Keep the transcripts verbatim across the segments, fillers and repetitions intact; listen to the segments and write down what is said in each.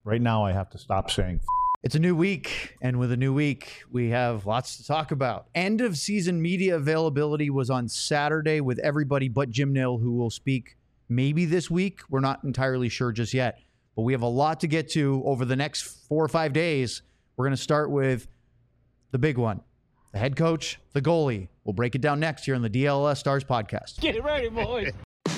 Right now, I have to stop saying. It's a new week, and with a new week, we have lots to talk about. End of season media availability was on Saturday with everybody but Jim Nill, who will speak maybe this week. We're not entirely sure just yet, but we have a lot to get to over the next four or five days. We're going to start with the big one, the head coach, the goalie. We'll break it down next here on the D L S Stars podcast. Get ready, boys.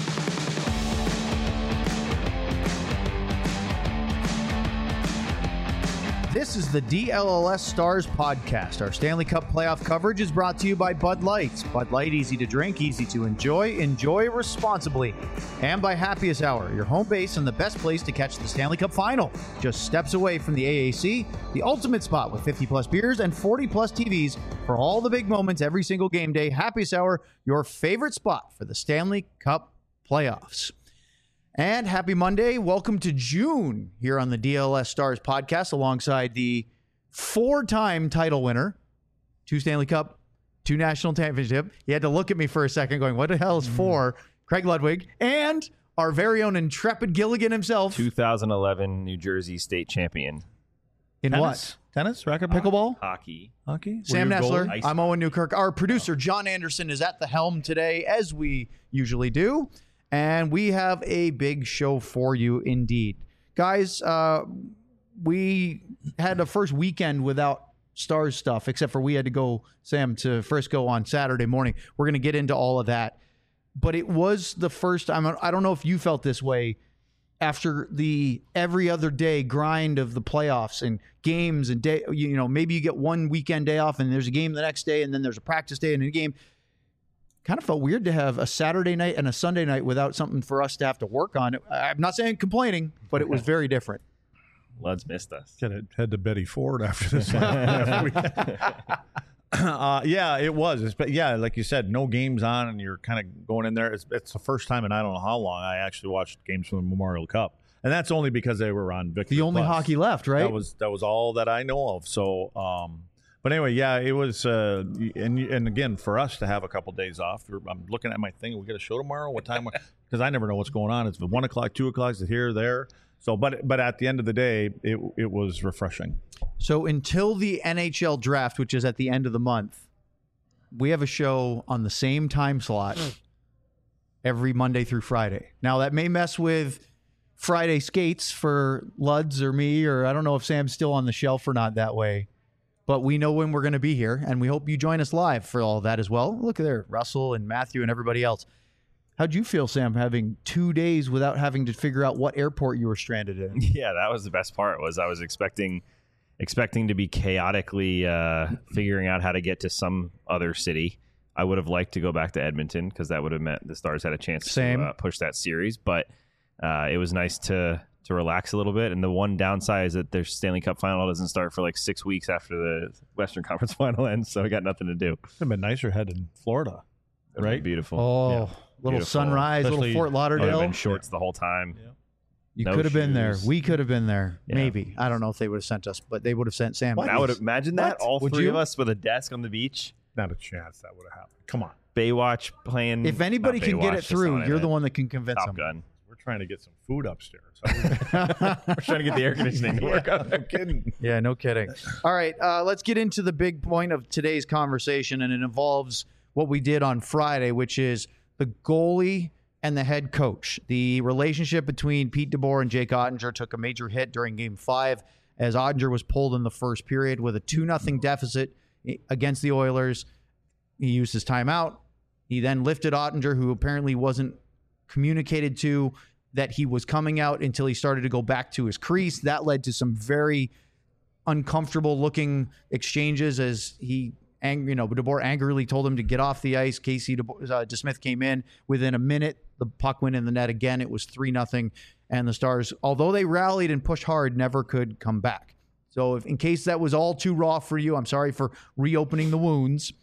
This is the D L L S Stars podcast. Our Stanley Cup playoff coverage is brought to you by Bud Light. Bud Light, easy to drink, easy to enjoy. Enjoy responsibly. And by Happiest Hour, your home base and the best place to catch the Stanley Cup final. Just steps away from the A A C, the ultimate spot with fifty plus beers and forty plus T Vs for all the big moments every single game day. Happiest Hour, your favorite spot for the Stanley Cup playoffs. And happy Monday. Welcome to June here on the D L S Stars podcast alongside the four-time title winner, two Stanley Cup, two national championship. You had to look at me for a second going, what the hell is four? Craig Ludwig, and our very own intrepid Gilligan himself. two thousand eleven New Jersey state champion. In Tennis? what? Tennis? Racket pickleball? Hockey. Hockey? Sam Were you a Nessler. goalie? I'm Owen Newkirk. Our producer, John Anderson, is at the helm today, as we usually do. And we have a big show for you indeed. Guys, uh, we had the first weekend without Stars stuff, except for we had to go, Sam, to Frisco on Saturday morning. We're going to get into all of that. But it was the first time, I don't know if you felt this way, after the every other day grind of the playoffs and games and day, you know, maybe you get one weekend day off and there's a game the next day and then there's a practice day and a game. Kind of felt weird to have a Saturday night and a Sunday night without something for us to have to work on. I'm not saying complaining, but it was very different. Luds missed us. Could have head to Betty Ford after this. after we- uh, yeah, it was. It's, but yeah, like you said, no games on, and you're kind of going in there. It's, it's the first time in I don't know how long I actually watched games from the Memorial Cup, and that's only because they were on Victory The only Plus. hockey left, right? That was that was all that I know of. So, um, but anyway, yeah, it was. Uh, and and again, for us to have a couple days off, we're- I'm looking at my thing. We got a show tomorrow. What time? Because I never know what's going on. It's one o'clock, two o'clock. Is it here, there? So, but but at the end of the day, it it was refreshing. So until the N H L draft, which is at the end of the month, we have a show on the same time slot every Monday through Friday. Now, that may mess with Friday skates for Luds or me, or I don't know if Sam's still on the shelf or not that way. But we know when we're going to be here, and we hope you join us live for all that as well. Look at there, Russell and Matthew and everybody else. How'd you feel, Sam, having two days without having to figure out what airport you were stranded in? Yeah, that was the best part. Was I was expecting expecting to be chaotically uh, figuring out how to get to some other city. I would have liked to go back to Edmonton because that would have meant the Stars had a chance Same. to uh, push that series. But uh, it was nice to to relax a little bit. And the one downside is that their Stanley Cup final doesn't start for like six weeks after the Western Conference final ends, so I got nothing to do. It'd have been nicer heading Florida, right? Beautiful. Oh, Yeah. little Beautiful. sunrise, Especially- little Fort I would have Lauderdale. been shorts the whole time. Yeah. You No could have been there. shoes. We could have been there. Yeah. Maybe. I don't know if they would have sent us, but they would have sent Sam. I would have imagine that What? all Would three you? of us with a desk on the beach, Not a chance that would have happened. Come on, Baywatch playing. If anybody not can get Baywatch, it that's through, not what I you're the meant. one that can convince Top them. Gun. we're trying to get some food upstairs. We're trying to get the air conditioning to work. Yeah, no kidding. Yeah, no kidding. All right, uh, let's get into the big point of today's conversation, and it involves what we did on Friday, which is the goalie and the head coach. The relationship between Pete DeBoer and Jake Ottinger took a major hit during Game Five as Ottinger was pulled in the first period with a two nothing deficit against the Oilers. He used his timeout. He then lifted Ottinger, who apparently wasn't communicated to that he was coming out until he started to go back to his crease. That led to some very uncomfortable looking exchanges as he, ang- you know, DeBoer angrily told him to get off the ice. Casey DeBoer, uh, DeSmith came in within a minute. The puck went in the net again. It was three nothing, and the Stars, although they rallied and pushed hard, never could come back. So if, in case that was all too raw for you, I'm sorry for reopening the wounds.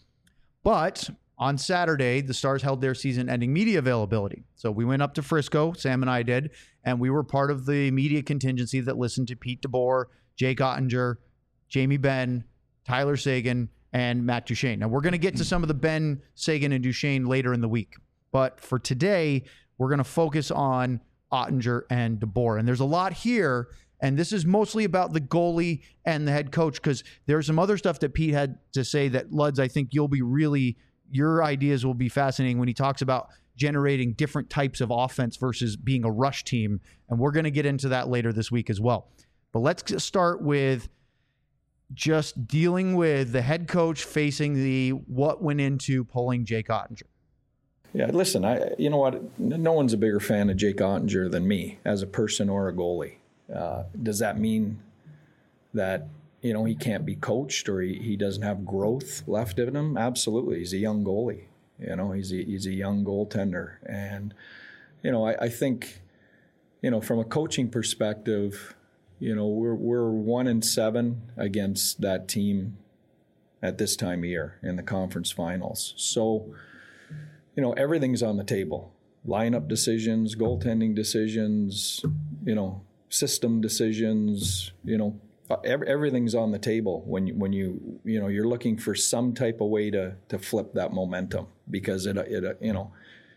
But on Saturday, the Stars held their season-ending media availability. So we went up to Frisco, Sam and I did, and we were part of the media contingency that listened to Pete DeBoer, Jake Ottinger, Jamie Benn, Tyler Seguin, and Matt Duchene. Now, we're going to get to some of the Benn, Seguin, and Duchene later in the week. But for today, we're going to focus on Ottinger and DeBoer. And there's a lot here, And this is mostly about the goalie and the head coach, because there's some other stuff that Pete had to say that, Luds, I think you'll be really, your ideas will be fascinating when he talks about generating different types of offense versus being a rush team. And we're going to get into that later this week as well. But let's just start with just dealing with the head coach facing the what went into pulling Jake Oettinger. Yeah, listen, I you know what? No one's a bigger fan of Jake Oettinger than me as a person or a goalie. Uh, does that mean that, you know, he can't be coached or he, he doesn't have growth left in him? Absolutely. He's a young goalie. You know, he's a, he's a young goaltender. And, you know, I, I think, you know, from a coaching perspective, you know, we're we're one and seven against that team at this time of year in the conference finals. So, you know, everything's on the table. Lineup decisions, goaltending decisions, you know, system decisions, you know, every, everything's on the table when you, when you, you know, you're looking for some type of way to to flip that momentum, because it, it you know,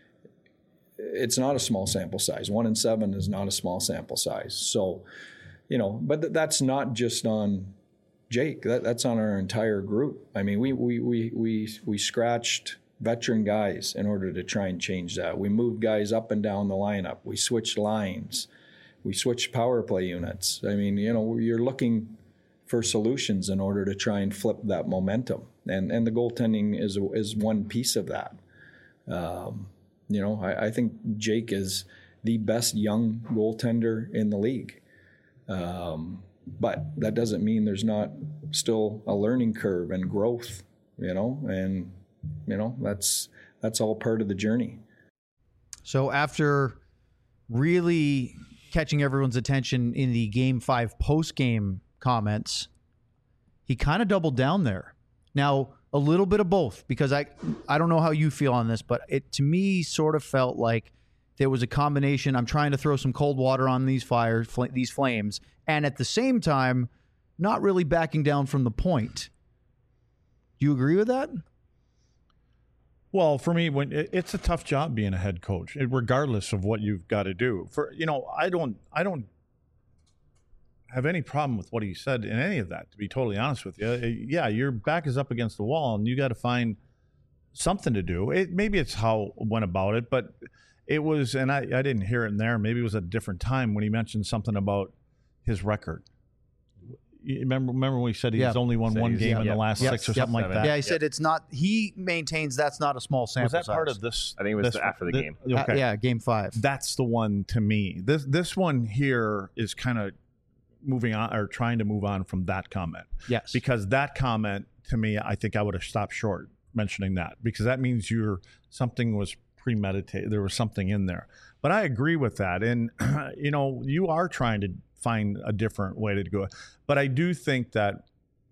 it's not a small sample size. One and seven is not a small sample size. So, you know, but th- that's not just on Jake. That, that's on our entire group. I mean, we we we we we scratched veteran guys in order to try and change that. We moved guys up and down the lineup. We switched lines. We switched power play units. I mean, you know, you're looking for solutions in order to try and flip that momentum. And and the goaltending is is one piece of that. Um, you know, I, I think Jake is the best young goaltender in the league. Um, but that doesn't mean there's not still a learning curve and growth, you know, and, you know, that's, that's all part of the journey. So after really catching everyone's attention in the game five post-game comments, he kind of doubled down there. Now, a little bit of both, because I, I don't know how you feel on this, but it, to me, sort of felt like there was a combination. I'm trying to throw some cold water on these fires, fl- these flames, and at the same time, not really backing down from the point. Do you agree with that? Well, for me, when it, it's a tough job being a head coach, it, regardless of what you've got to do. For you know, I don't, I don't have any problem with what he said in any of that. To be totally honest with you, yeah, your back is up against the wall, and you got to find something to do. It maybe it's how it went about it, but it was, and I, I didn't hear it in there. Maybe it was a different time when he mentioned something about his record. You remember, remember when he said he's Yeah. only won Said one he's- game yeah, in yeah. the last Yep. six or Yep. something like that? Yeah, he said it's not. He maintains that's not a small sample Was that size. part of this? I think it was this, the- after the thi- game. Okay. Uh, yeah, game five. That's the one to me. This this one here is kind of moving on or trying to move on from that comment. Yes. Because that comment to me, I think I would have stopped short mentioning that, because that means you're something was premeditated. There was something in there. But I agree with that. And, you know, you are trying to find a different way to go. But I do think that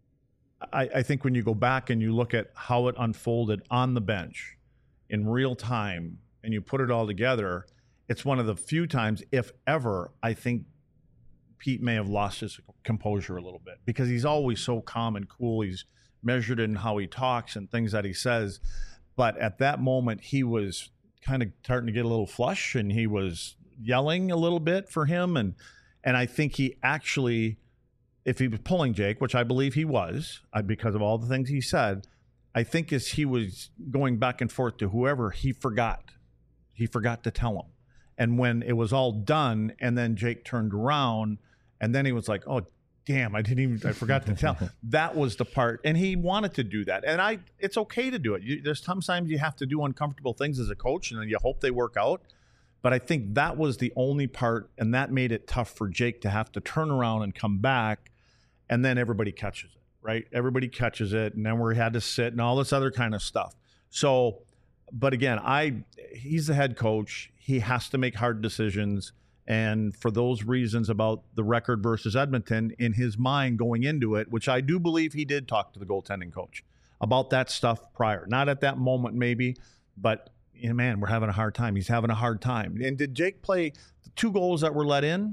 I, I think when you go back and you look at how it unfolded on the bench in real time and you put it all together, it's one of the few times, if ever, I think Pete may have lost his composure a little bit, because he's always so calm and cool. He's measured in how he talks and things that he says. But at that moment, he was kind of starting to get a little flush, and he was yelling a little bit for him. And and I think he actually, if he was pulling Jake, which I believe he was, uh, because of all the things he said, I think as he was going back and forth to whoever, he forgot. He forgot to tell him. And when it was all done, and then Jake turned around, and then he was like, oh, damn, I didn't even, I forgot to tell. That was the part. And he wanted to do that. And I, it's okay to do it. You, there's sometimes you have to do uncomfortable things as a coach, and you hope they work out. But I think that was the only part, and that made it tough for Jake to have to turn around and come back, and then everybody catches it, right? Everybody catches it, and then we had to sit and all this other kind of stuff. So, but again, I he's the head coach. He has to make hard decisions. And for those reasons about the record versus Edmonton, in his mind going into it, which I do believe he did talk to the goaltending coach about that stuff prior. Not at that moment maybe, but you know, man, we're having a hard time. He's having a hard time. And did Jake play the two goals that were let in?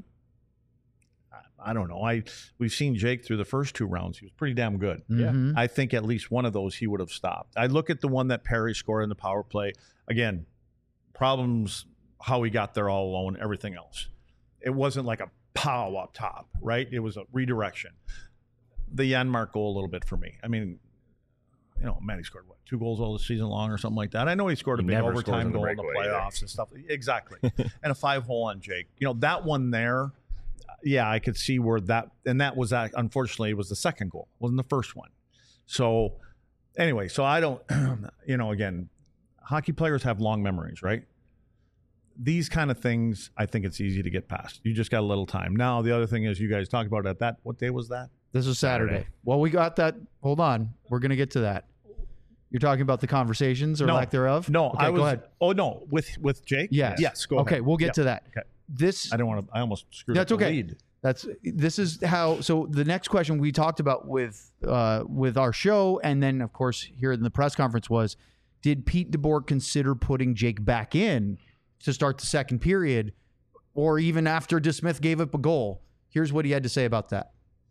I don't know. I we've seen Jake through the first two rounds. He was pretty damn good. Mhm. I think at least one of those he would have stopped. I look at the one that Perry scored in the power play. Again, problems how he got there all alone, everything else. It wasn't like a pow up top, right? It was a redirection. The Janmark goal a little bit for me. I mean, you know, Matty scored what, two goals all the season long or something like that. I know he scored a He big never overtime scores in the goal in the breakaway playoffs either. and stuff. Exactly. And a five hole on Jake. You know, that one there, yeah, I could see where that, and that was, that, unfortunately, it was the second goal. It wasn't the first one. So anyway, so I don't, you know, again, hockey players have long memories, right? These kind of things, I think it's easy to get past. You just got a little time. Now, the other thing is you guys talked about it at that, what day was that? This was Saturday. Saturday. Well, we got that. Hold on. We're going to get to that. You're talking about the conversations or No. lack thereof? No, okay, I was. go ahead. Oh no, with with Jake. Yes. Yes. Go okay, ahead. we'll get Yeah. to that. Okay. This. I didn't want to. I almost screwed That's up the okay. lead. That's this is how. So the next question we talked about with uh, with our show, and then of course here in the press conference was, did Pete DeBoer consider putting Jake back in to start the second period, or even after DeSmith gave up a goal? Here's what he had to say about that.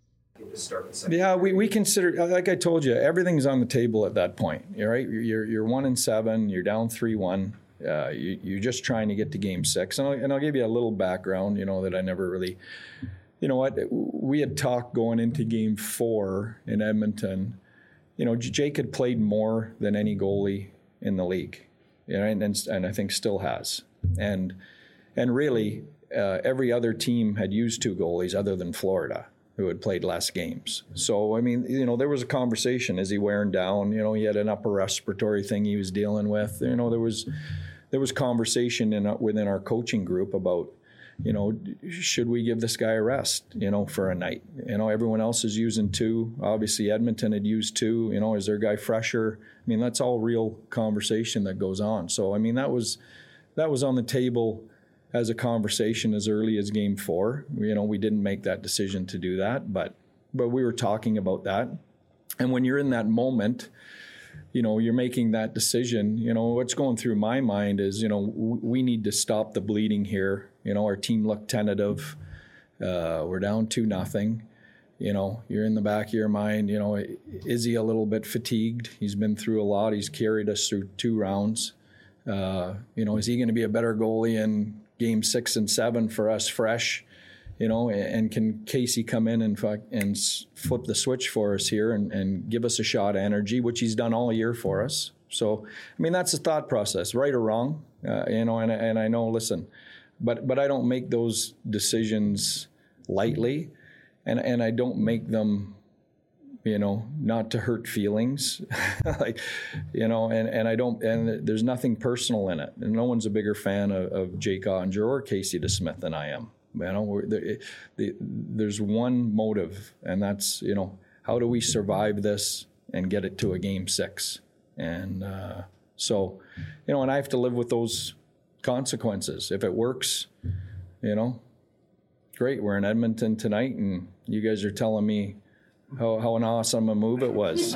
Yeah, we, we consider, like I told you, everything's on the table at that point. You're right. You're you're one and seven. You're down three one. Uh, you, you're just trying to get to game six. And I'll, and I'll give you a little background. You know that I never really. You know what? We had talked going into game four in Edmonton. You know, Jake had played more than any goalie in the league. You know, and and, and I think still has. And and really, uh, every other team had used two goalies other than Florida, who had played less games. So, I mean, you know, there was a conversation. Is he wearing down? You know, he had an upper respiratory thing he was dealing with. You know, there was there was conversation in within our coaching group about, you know, should we give this guy a rest, you know, for a night? You know, everyone else is using two. Obviously, Edmonton had used two. You know, is their guy fresher? I mean, that's all real conversation that goes on. So, I mean, that was that was on the table as a conversation as early as game four. You know, we didn't make that decision to do that, but but we were talking about that. And when you're in that moment, you know, you're making that decision, you know, what's going through my mind is, you know, w- we need to stop the bleeding here. You know, our team looked tentative. Uh, we're down two nothing. You know, you're in the back of your mind, you know, is he a little bit fatigued? He's been through a lot. He's carried us through two rounds. Uh, you know, is he going to be a better goalie in game six and seven for us fresh? You know, and, and can Casey come in and fuck, and s- flip the switch for us here and, and give us a shot of energy, which he's done all year for us. So, I mean, that's the thought process, right or wrong. Uh, you know, and, and I know, listen, but but I don't make those decisions lightly, and and I don't make them, you know, not to hurt feelings, like, you know, and, and I don't, and there's nothing personal in it. And no one's a bigger fan of, of Jake Ottinger or Casey DeSmith than I am. You know, we're, the, the, there's one motive, and that's, you know, how do we survive this and get it to a game six? And uh, so, you know, and I have to live with those consequences. If it works, you know, great. We're in Edmonton tonight, and you guys are telling me how, how an awesome a move it was.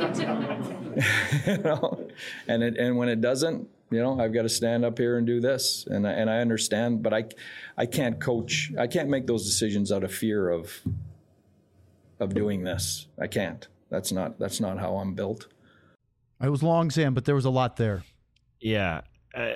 You know, and it, and when it doesn't, you know, I've got to stand up here and do this, and I, and I understand, but I, I can't coach. I can't make those decisions out of fear of, of doing this. I can't. That's not that's not how I'm built. It was long, Sam, but there was a lot there. Yeah. Uh,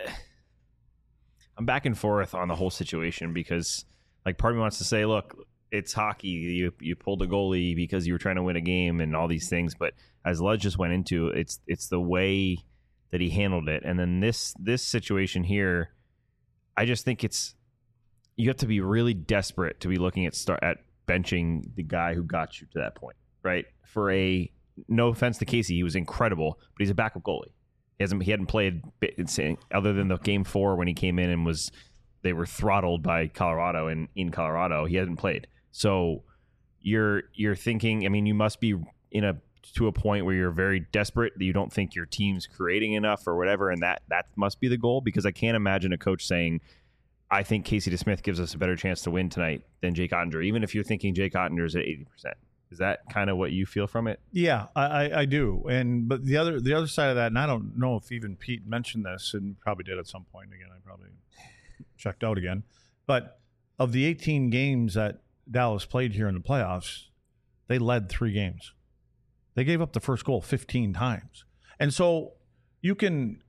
I'm back and forth on the whole situation because, like, part of me wants to say, look, it's hockey. You you pulled a goalie because you were trying to win a game and all these things. But as Lud just went into, it's it's the way that he handled it. And then this this situation here, I just think it's you have to be really desperate to be looking at start at benching the guy who got you to that point, right? For a no offense to Casey, he was incredible, but he's a backup goalie. He hasn't he hadn't played other than the game four when he came in and was they were throttled by Colorado and in Colorado. He hasn't played. So you're you're thinking, I mean, you must be in a to a point where you're very desperate that you don't think your team's creating enough or whatever, and that that must be the goal, because I can't imagine a coach saying, I think Casey DeSmith gives us a better chance to win tonight than Jake Ottinger, even if you're thinking Jake Ottinger's at eighty percent. Is that kind of what you feel from it? Yeah, I, I, I do. And but the other the other side of that, and I don't know if even Pete mentioned this, and probably did at some point. Again, I probably checked out again. But of the eighteen games that Dallas played here in the playoffs, they led three games. They gave up the first goal fifteen times. And so you can,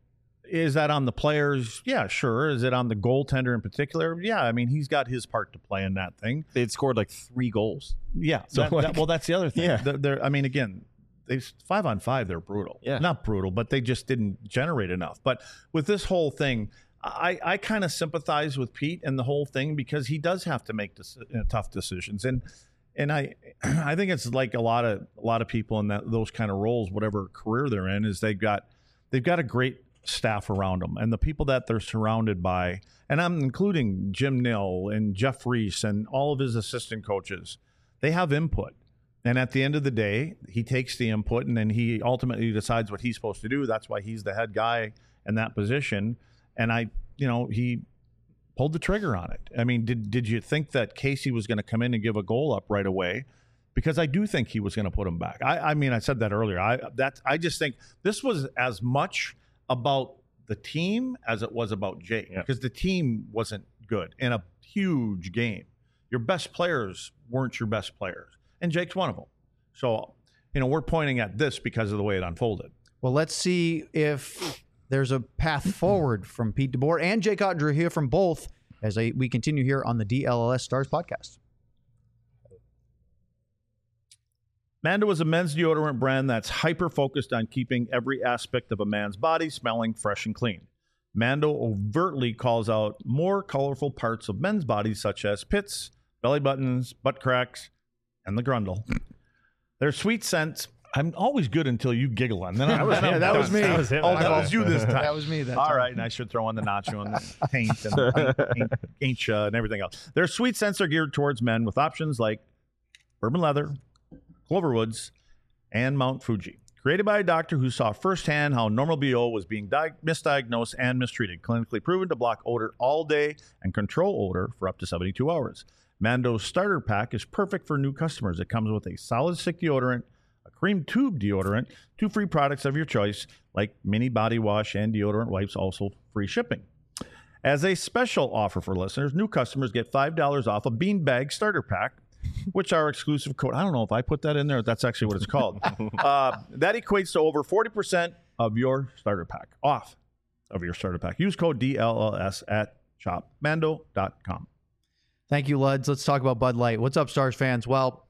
Is that on the players? Yeah, sure. Is it on the goaltender in particular? Yeah, I mean, he's got his part to play in that thing. They'd scored like three goals. Yeah. So, that, like- that, well, that's the other thing. Yeah. They're, they're, I mean, again, they five on five, they're brutal. Yeah. Not brutal, but they just didn't generate enough. But with this whole thing, I, I kind of sympathize with Pete and the whole thing because he does have to make this, uh, tough decisions. And and I I think it's like a lot of a lot of people in that those kind of roles, whatever career they're in, is they've got they've got a great staff around them, and the people that they're surrounded by, and I'm including Jim Nill and Jeff Reese and all of his assistant coaches, they have input. And at the end of the day, he takes the input and then he ultimately decides what he's supposed to do. That's why he's the head guy in that position. And I, you know, he pulled the trigger on it. I mean, did did you think that Casey was going to come in and give a goal up right away? Because I do think he was going to put him back. I, I mean, I said that earlier. I that I just think this was as much about the team as it was about Jake, Yeah. because the team wasn't good in a huge game. Your best players weren't your best players, and Jake's one of them. So, you know, we're pointing at this because of the way it unfolded. Well, let's see if there's a path forward from Pete DeBoer and Jake Ottinger here from both as I, we continue here on the D L L S Stars podcast. Mando is a men's deodorant brand that's hyper-focused on keeping every aspect of a man's body smelling fresh and clean. Mando overtly calls out more colorful parts of men's bodies such as pits, belly buttons, butt cracks, and the grundle. Their sweet scents, I'm always good until you giggle. And then I'm, was then him. I'm that done. was me. That was him. Oh, that was you this time. That was me. That All time. right, and I should throw in the nacho and the taint and ain't, ain't uh, and everything else. Their sweet scents are geared towards men with options like bourbon leather, Cloverwoods, and Mount Fuji. Created by a doctor who saw firsthand how normal B O was being di- misdiagnosed and mistreated, clinically proven to block odor all day and control odor for up to seventy-two hours. Mando's starter pack is perfect for new customers. It comes with a solid stick deodorant, a cream tube deodorant, two free products of your choice, like mini body wash and deodorant wipes, also free shipping. As a special offer for listeners, new customers get five dollars off a beanbag starter pack, which our exclusive code. I don't know if I put that in there. That's actually what it's called. uh, that equates to over forty percent of your starter pack, off of your starter pack. Use code D L L S at shop mando dot com. Thank you, Luds. Let's talk about Bud Light. What's up, Stars fans? Well,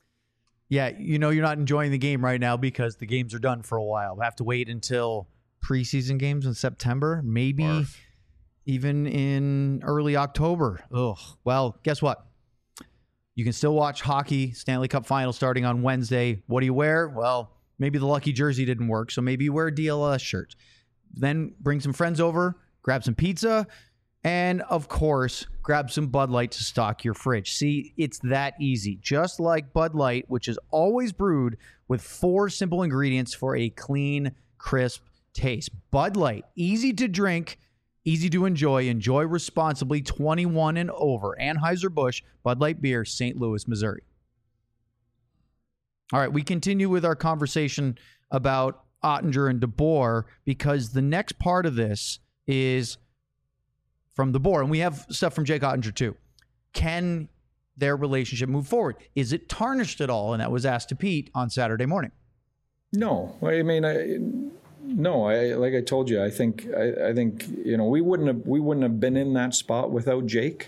yeah, you know you're not enjoying the game right now because the games are done for a while. We have to wait until preseason games in September, maybe Barf. even in early October. Ugh. Well, guess what? You can still watch hockey, Stanley Cup final starting on Wednesday. What do you wear? Well, maybe the lucky jersey didn't work, so maybe you wear a D L L S shirt. Then bring some friends over, grab some pizza, and of course, grab some Bud Light to stock your fridge. See, it's that easy. Just like Bud Light, which is always brewed with four simple ingredients for a clean, crisp taste. Bud Light, easy to drink, easy to enjoy. Enjoy responsibly, twenty-one and over. Anheuser-Busch, Bud Light Beer, Saint Louis, Missouri. All right, we continue with our conversation about Ottinger and DeBoer because the next part of this is from DeBoer, and we have stuff from Jake Ottinger too. Can their relationship move forward? Is it tarnished at all? And that was asked to Pete on Saturday morning. No, I mean, I, no, I like I told you, I think I, I think you know we wouldn't have we wouldn't have been in that spot without Jake.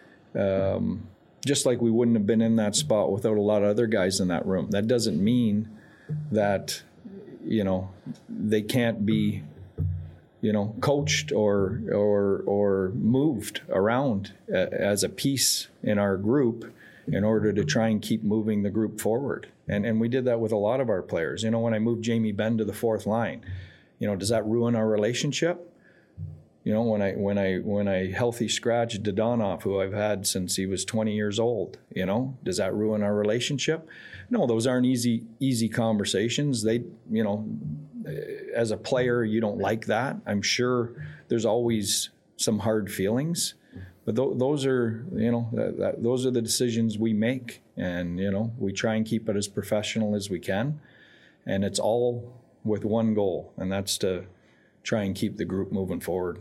Um, just like we wouldn't have been in that spot without a lot of other guys in that room. That doesn't mean that you know they can't be you know coached or or or moved around as a piece in our group in order to try and keep moving the group forward. And and we did that with a lot of our players. You know, when I moved Jamie Benn to the fourth line, you know, does that ruin our relationship? You know, when I when I when I healthy scratched Dodonov, who I've had since he was twenty years old, you know, does that ruin our relationship? No, those aren't easy easy conversations. They, you know, as a player, you don't like that. I'm sure there's always some hard feelings. But th- those are, you know, that, that, those are the decisions we make. And, you know, we try and keep it as professional as we can. And it's all with one goal, and that's to try and keep the group moving forward.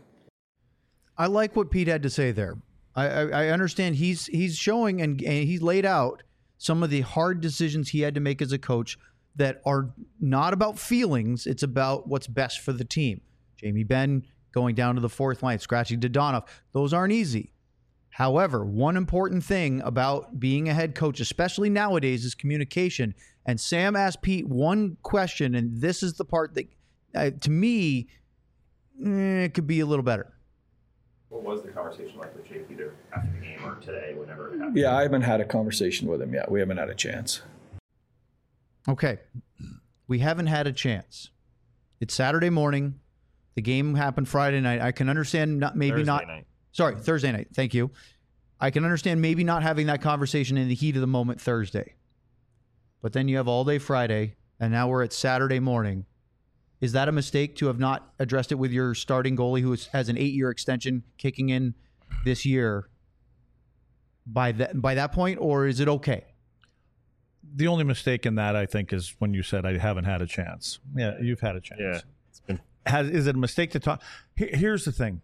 I like what Pete had to say there. I, I, I understand he's he's showing and, and he's laid out some of the hard decisions he had to make as a coach that are not about feelings. It's about what's best for the team. Jamie Benn going down to the fourth line, scratching Dodonov. Those aren't easy. However, one important thing about being a head coach, especially nowadays, is communication. And Sam asked Pete one question, and this is the part that, uh, to me, eh, it could be a little better. What was the conversation like with Jake, either after the game or today, whenever it happened? Yeah, I haven't had a conversation with him yet. We haven't had a chance. Okay. We haven't had a chance. It's Saturday morning. The game happened Friday night. I can understand not maybe Thursday not. night. Sorry, Thursday night. Thank you. I can understand maybe not having that conversation in the heat of the moment Thursday. But then you have all day Friday, and now we're at Saturday morning. Is that a mistake to have not addressed it with your starting goalie who is, has an eight-year extension kicking in this year by that, by that point, or is it okay? The only mistake in that, I think, is when you said I haven't had a chance. Yeah, you've had a chance. Yeah. It's been Has, is it a mistake to talk? Here- Here's the thing.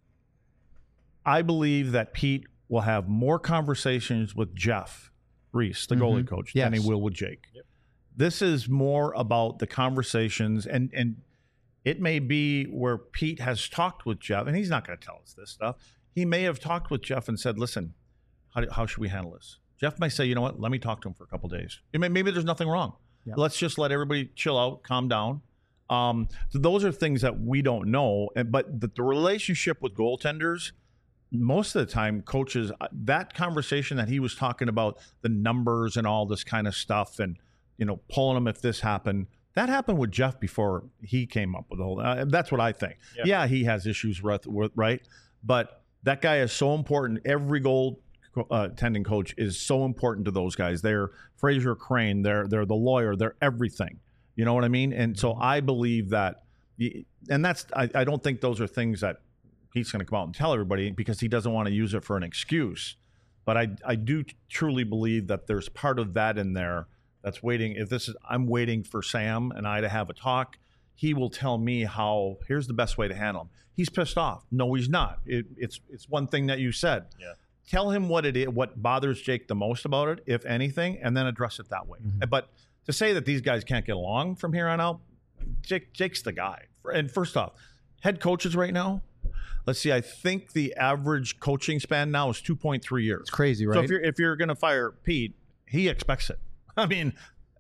I believe that Pete will have more conversations with Jeff Reese, the goalie coach, than he Yes. will with Jake. This is more about the conversations, and and it may be where Pete has talked with Jeff, and he's not going to tell us this stuff. He may have talked with Jeff and said, listen, how, do, how should we handle this? Jeff may say, you know what, let me talk to him for a couple days. It may, maybe there's nothing wrong. Yeah. Let's just let everybody chill out, calm down. Um, so those are things that we don't know. And, but the, the relationship with goaltenders, most of the time, coaches, uh, that conversation that he was talking about, the numbers and all this kind of stuff, and you know, pulling them if this happened, that happened with Jeff before he came up with the whole. Uh, that's what I think. Yeah. Yeah, he has issues with, with right, but that guy is so important. Every goal uh, tending coach is so important to those guys. They're Fraser Crane. They're they're the lawyer. They're everything. You know what I mean? And so I believe that, and that's I, I don't think those are things that he's going to come out and tell everybody because he doesn't want to use it for an excuse. But I I do truly believe that there's part of that in there that's waiting. If this is, I'm waiting for Sam and I to have a talk. He will tell me how. Here's the best way to handle him. He's pissed off. No, he's not. It, it's it's one thing that you said. Yeah. Tell him what it is, what bothers Jake the most about it, if anything, and then address it that way. Mm-hmm. But to say that these guys can't get along from here on out, Jake Jake's the guy. And first off, head coaches right now. Let's see. I think the average coaching span now is two point three years. It's crazy, right? So if you're if you're going to fire Pete, he expects it. I mean,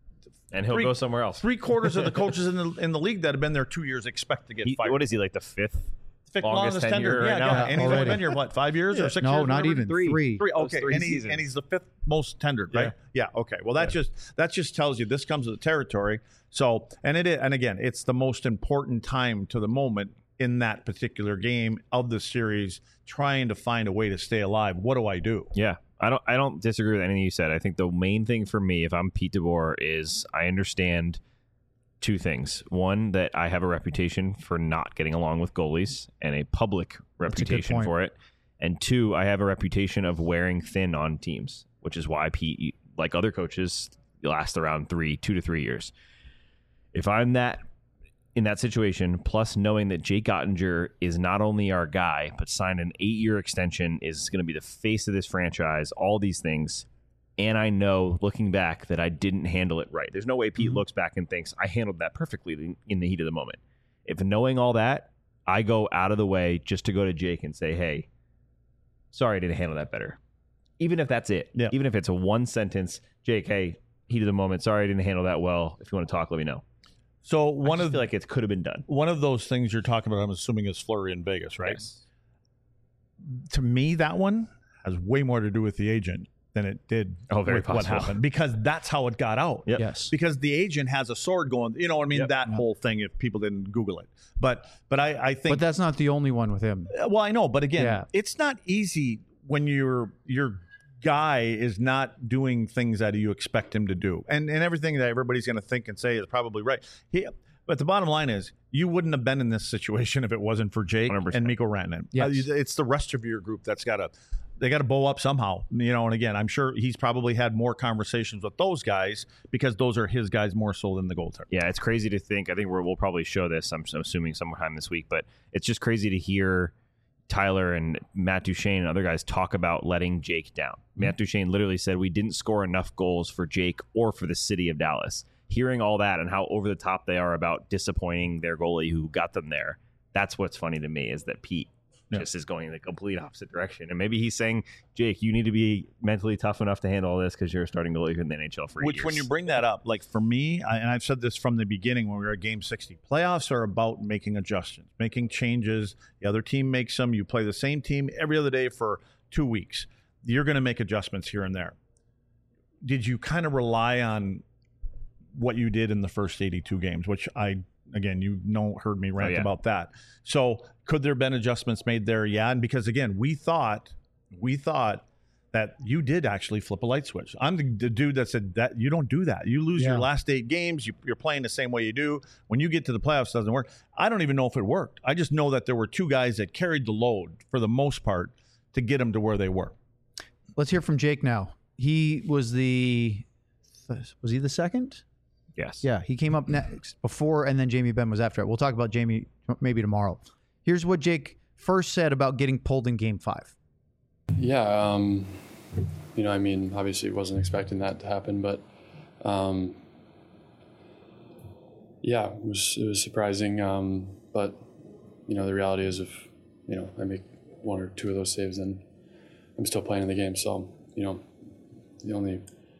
and he'll Three- go somewhere else. three quarters of the coaches in the in the league that have been there two years expect to get He- fired. what is he, like the fifth? Fifth longest longest tenure tenure right yeah, now? yeah. And he's only Already. been here what, five years or six no, years? not whatever? even Three. three. Three. Those Okay, three and, he, seasons. and he's the fifth most tendered, right? Yeah. Okay. Well, that just that just tells you this comes with the territory. So, and it is, and again, it's the most important time to the moment in that particular game of the series, trying to find a way to stay alive. What do I do? Yeah, I don't. I don't disagree with anything you said. I think the main thing for me, if I'm Pete DeBoer, is I understand two things. One, that I have a reputation for not getting along with goalies and a public a good reputation point. for it. And two, I have a reputation of wearing thin on teams, which is why Pete, like other coaches, last around three, two to three years. If I'm that in that situation, plus knowing that Jake Ottinger is not only our guy, but signed an eight-year extension, is going to be the face of this franchise, all these things. And I know, looking back, that I didn't handle it right. There's no way Pete Mm-hmm. looks back and thinks, I handled that perfectly in the heat of the moment. If knowing all that, I go out of the way just to go to Jake and say, hey, sorry I didn't handle that better. Even if that's it. Yeah. Even if it's a one sentence, Jake, hey, heat of the moment, sorry I didn't handle that well. If you want to talk, let me know. So One one I just of feel like it could have been done. one of those things you're talking about, I'm assuming, is Fleury in Vegas, right? Yes. To me, that one has way more to do with the agent than it did Oh, very with what possible. happened, because that's how it got out. Yep. Yes. Because the agent has a sword going, you know what I mean? Yep. That whole thing, if people didn't Google it. But but I, I think But that's not the only one with him. well, I know, but again, Yeah. it's not easy when your your guy is not doing things that you expect him to do. And and everything that everybody's gonna think and say is probably right. He, but the bottom line is, you wouldn't have been in this situation if it wasn't for Jake one hundred percent. and Mikko Rantanen. Yes. Uh, it's the rest of your group that's got to, they got to bow up somehow, you know. And again, I'm sure he's probably had more conversations with those guys because those are his guys more so than the goaltender. Yeah, it's crazy to think. I think we're, we'll probably show this, I'm, I'm assuming, sometime this week. But it's just crazy to hear Tyler and Matt Duchene and other guys talk about letting Jake down. Mm-hmm. Matt Duchene literally said, we didn't score enough goals for Jake or for the city of Dallas. Hearing all that and how over the top they are about disappointing their goalie who got them there, That's what's funny to me is that Pete Yeah. just is going in the complete opposite direction. And maybe he's saying, Jake, you need to be mentally tough enough to handle all this because you're a starting goalie in the N H L for eight Which, years. when you bring that up, like for me, I, and I've said this from the beginning when we were at Game sixty, playoffs are about making adjustments, making changes. The other team makes them. You play the same team every other day for two weeks. You're going to make adjustments here and there. Did you kind of rely on what you did in the first eighty-two games, which I, again, you know, heard me rant Oh, yeah. about that. So could there have been adjustments made there? Yeah. And because, again, we thought, we thought that you did actually flip a light switch. I'm the, the dude that said that you don't do that. You lose Yeah. your last eight games. You, you're playing the same way you do. When you get to the playoffs, it doesn't work. I don't even know if it worked. I just know that there were two guys that carried the load for the most part to get them to where they were. Let's hear from Jake now. He was the was he the second? yes. Yeah, he came up next before, and then Jamie Benn was after it. We'll talk about Jamie maybe tomorrow. Here's what Jake first said about getting pulled in Game Five. Yeah, um, you know, I mean, obviously wasn't expecting that to happen, but um, yeah, it was it was surprising. Um, but you know, the reality is, if you know, I make one or two of those saves, then I'm still playing in the game. So you know, the only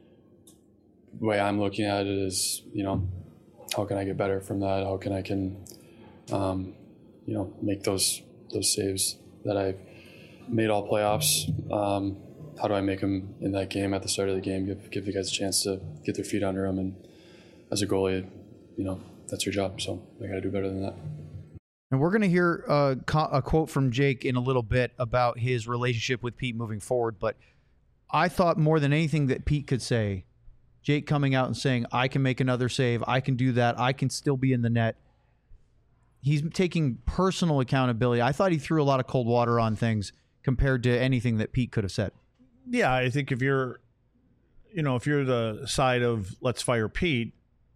way I'm looking at it is, you know, how can I get better from that? How can I can, um, you know, make those those saves that I've made all playoffs. Um, how do I make them in that game at the start of the game? Give give the guys a chance to get their feet under them. And as a goalie, you know, that's your job. So I got to do better than that. And we're going to hear a, co- a quote from Jake in a little bit about his relationship with Pete moving forward. But I thought more than anything that Pete could say, Jake coming out and saying, I can make another save. I can do that. I can still be in the net. He's taking personal accountability. I thought he threw a lot of cold water on things compared to anything that Pete could have said. Yeah, I think if you're, you know, if you're the side of let's fire Pete,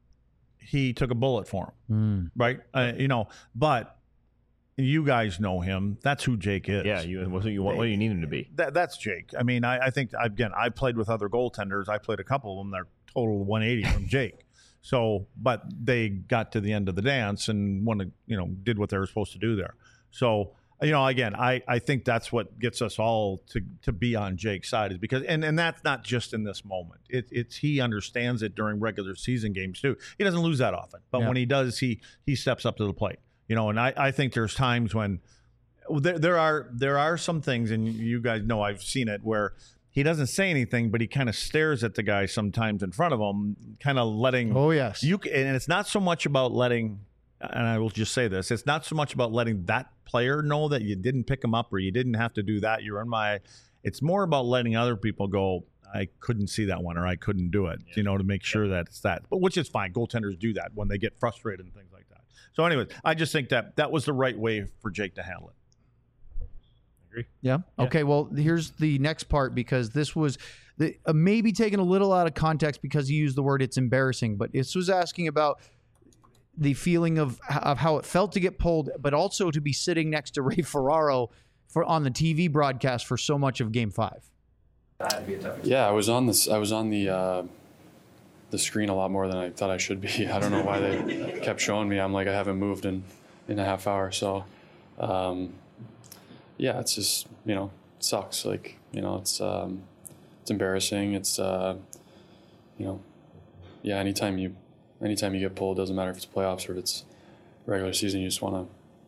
he took a bullet for him, right? Uh, you know, but you guys know him. That's who Jake is. Yeah. You, what, do you, what do you need him to be? That, that's Jake. I mean, I, I think, again, I played with other goaltenders. I played a couple of them. They're total one eighty from Jake. So, but they got to the end of the dance and one, you know, did what they were supposed to do there. So, you know, again, I, I think that's what gets us all to, to be on Jake's side is because, and, and that's not just in this moment. It, it's he understands it during regular season games too. He doesn't lose that often, but Yeah. when he does, he he steps up to the plate. You know, and I, I think there's times when there there are there are some things, and you guys know I've seen it where he doesn't say anything, but he kind of stares at the guy sometimes in front of him, kind of letting. Oh, yes. You c- and it's not so much about letting. And I will just say this: it's not so much about letting that player know that you didn't pick him up or you didn't have to do that. You're in my. It's more about letting other people go, I couldn't see that one or I couldn't do it, you know, to make sure that it's that. But which is fine. Goaltenders do that when they get frustrated and things like that. So, anyways, I just think that that was the right way for Jake to handle it. Agree. Yeah. Okay. Well, here's the next part because this was the, uh, maybe taken a little out of context because he used the word it's embarrassing, but this was asking about the feeling of of how it felt to get pulled, but also to be sitting next to Ray Ferraro for on the T V broadcast for so much of Game Five. Yeah, I was on this. I was on the uh, the screen a lot more than I thought I should be. I don't know why they kept showing me. I'm like I haven't moved in in a half hour. So, um, yeah, it's just you know it sucks. Like you know it's um, it's embarrassing. It's uh, you know yeah. Anytime you anytime you get pulled, doesn't matter if it's playoffs or if it's regular season. You just want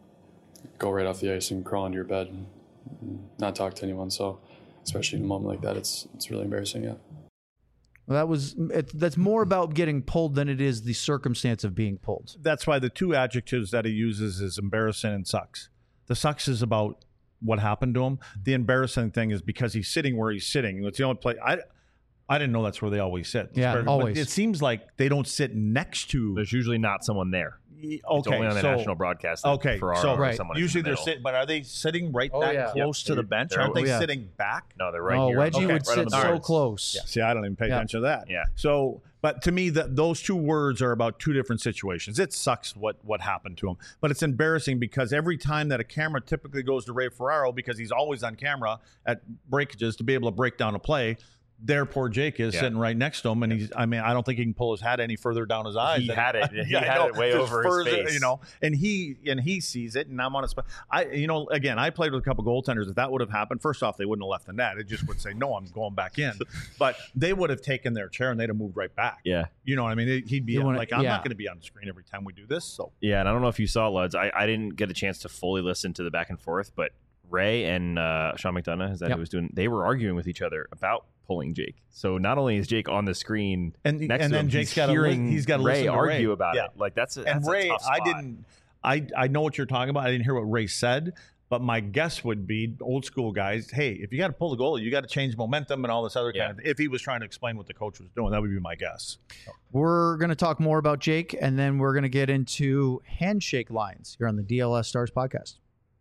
to go right off the ice and crawl into your bed and, and not talk to anyone. So. Especially in a moment like that, it's it's really embarrassing. Yeah. Well, that was it, that's more about getting pulled than it is the circumstance of being pulled. That's why the two adjectives that he uses is embarrassing and sucks. The sucks is about what happened to him. The embarrassing thing is because he's sitting where he's sitting. It's the only place I I didn't know that's where they always sit. Yeah, But always. it seems like they don't sit next to. There's usually not someone there. Okay, It's only on the so, national broadcast. that Okay, Ferraro so or right. someone is usually in the they're middle. sitting, but are they sitting right Oh, that yeah. close Yep. to the They're- bench? they're- Aren't they oh, yeah. sitting back? No, they're right oh, here. Wedgie Okay, would right sit on the so boards. close. Yeah. See, I don't even pay Yeah. attention to that. Yeah. So, but to me, that those two words are about two different situations. It sucks what what happened to him, but it's embarrassing because every time that a camera typically goes to Ray Ferraro, because he's always on camera at breakages to be able to break down a play, there poor Jake is Yeah. sitting right next to him, and he's I mean I don't think he can pull his hat any further down his eyes. He than- had it. He Yeah, I had know. it way Just over further, his face. you know, and he and he sees it, and I'm on a spot. I you know again I played with a couple goaltenders. If that would have happened, first off they wouldn't have left the net. It just would say no, I'm going back in. But they would have taken their chair and they'd have moved right back. Yeah. You know what I mean? He'd be You wanna- like, I'm yeah. not going to be on the screen every time we do this. So Yeah, and I don't know if you saw, Luds. I, I didn't get a chance to fully listen to the back and forth, but Ray and uh, Sean McDonough, is that Yep. who was doing? They were arguing with each other about pulling Jake. So not only is Jake on the screen and next and to then him, Jake's he's got to hearing he's got to Ray listen to argue Ray. about Yeah. it. Like that's a, And that's a Ray, tough I spot. didn't. I I know what you're talking about. I didn't hear what Ray said, but my guess would be old school guys. Hey, if you got to pull the goalie, you got to change momentum and all this other Yeah. kind of. If he was trying to explain what the coach was doing, that would be my guess. We're going to talk more about Jake, and then we're going to get into handshake lines here on the D L S Stars podcast.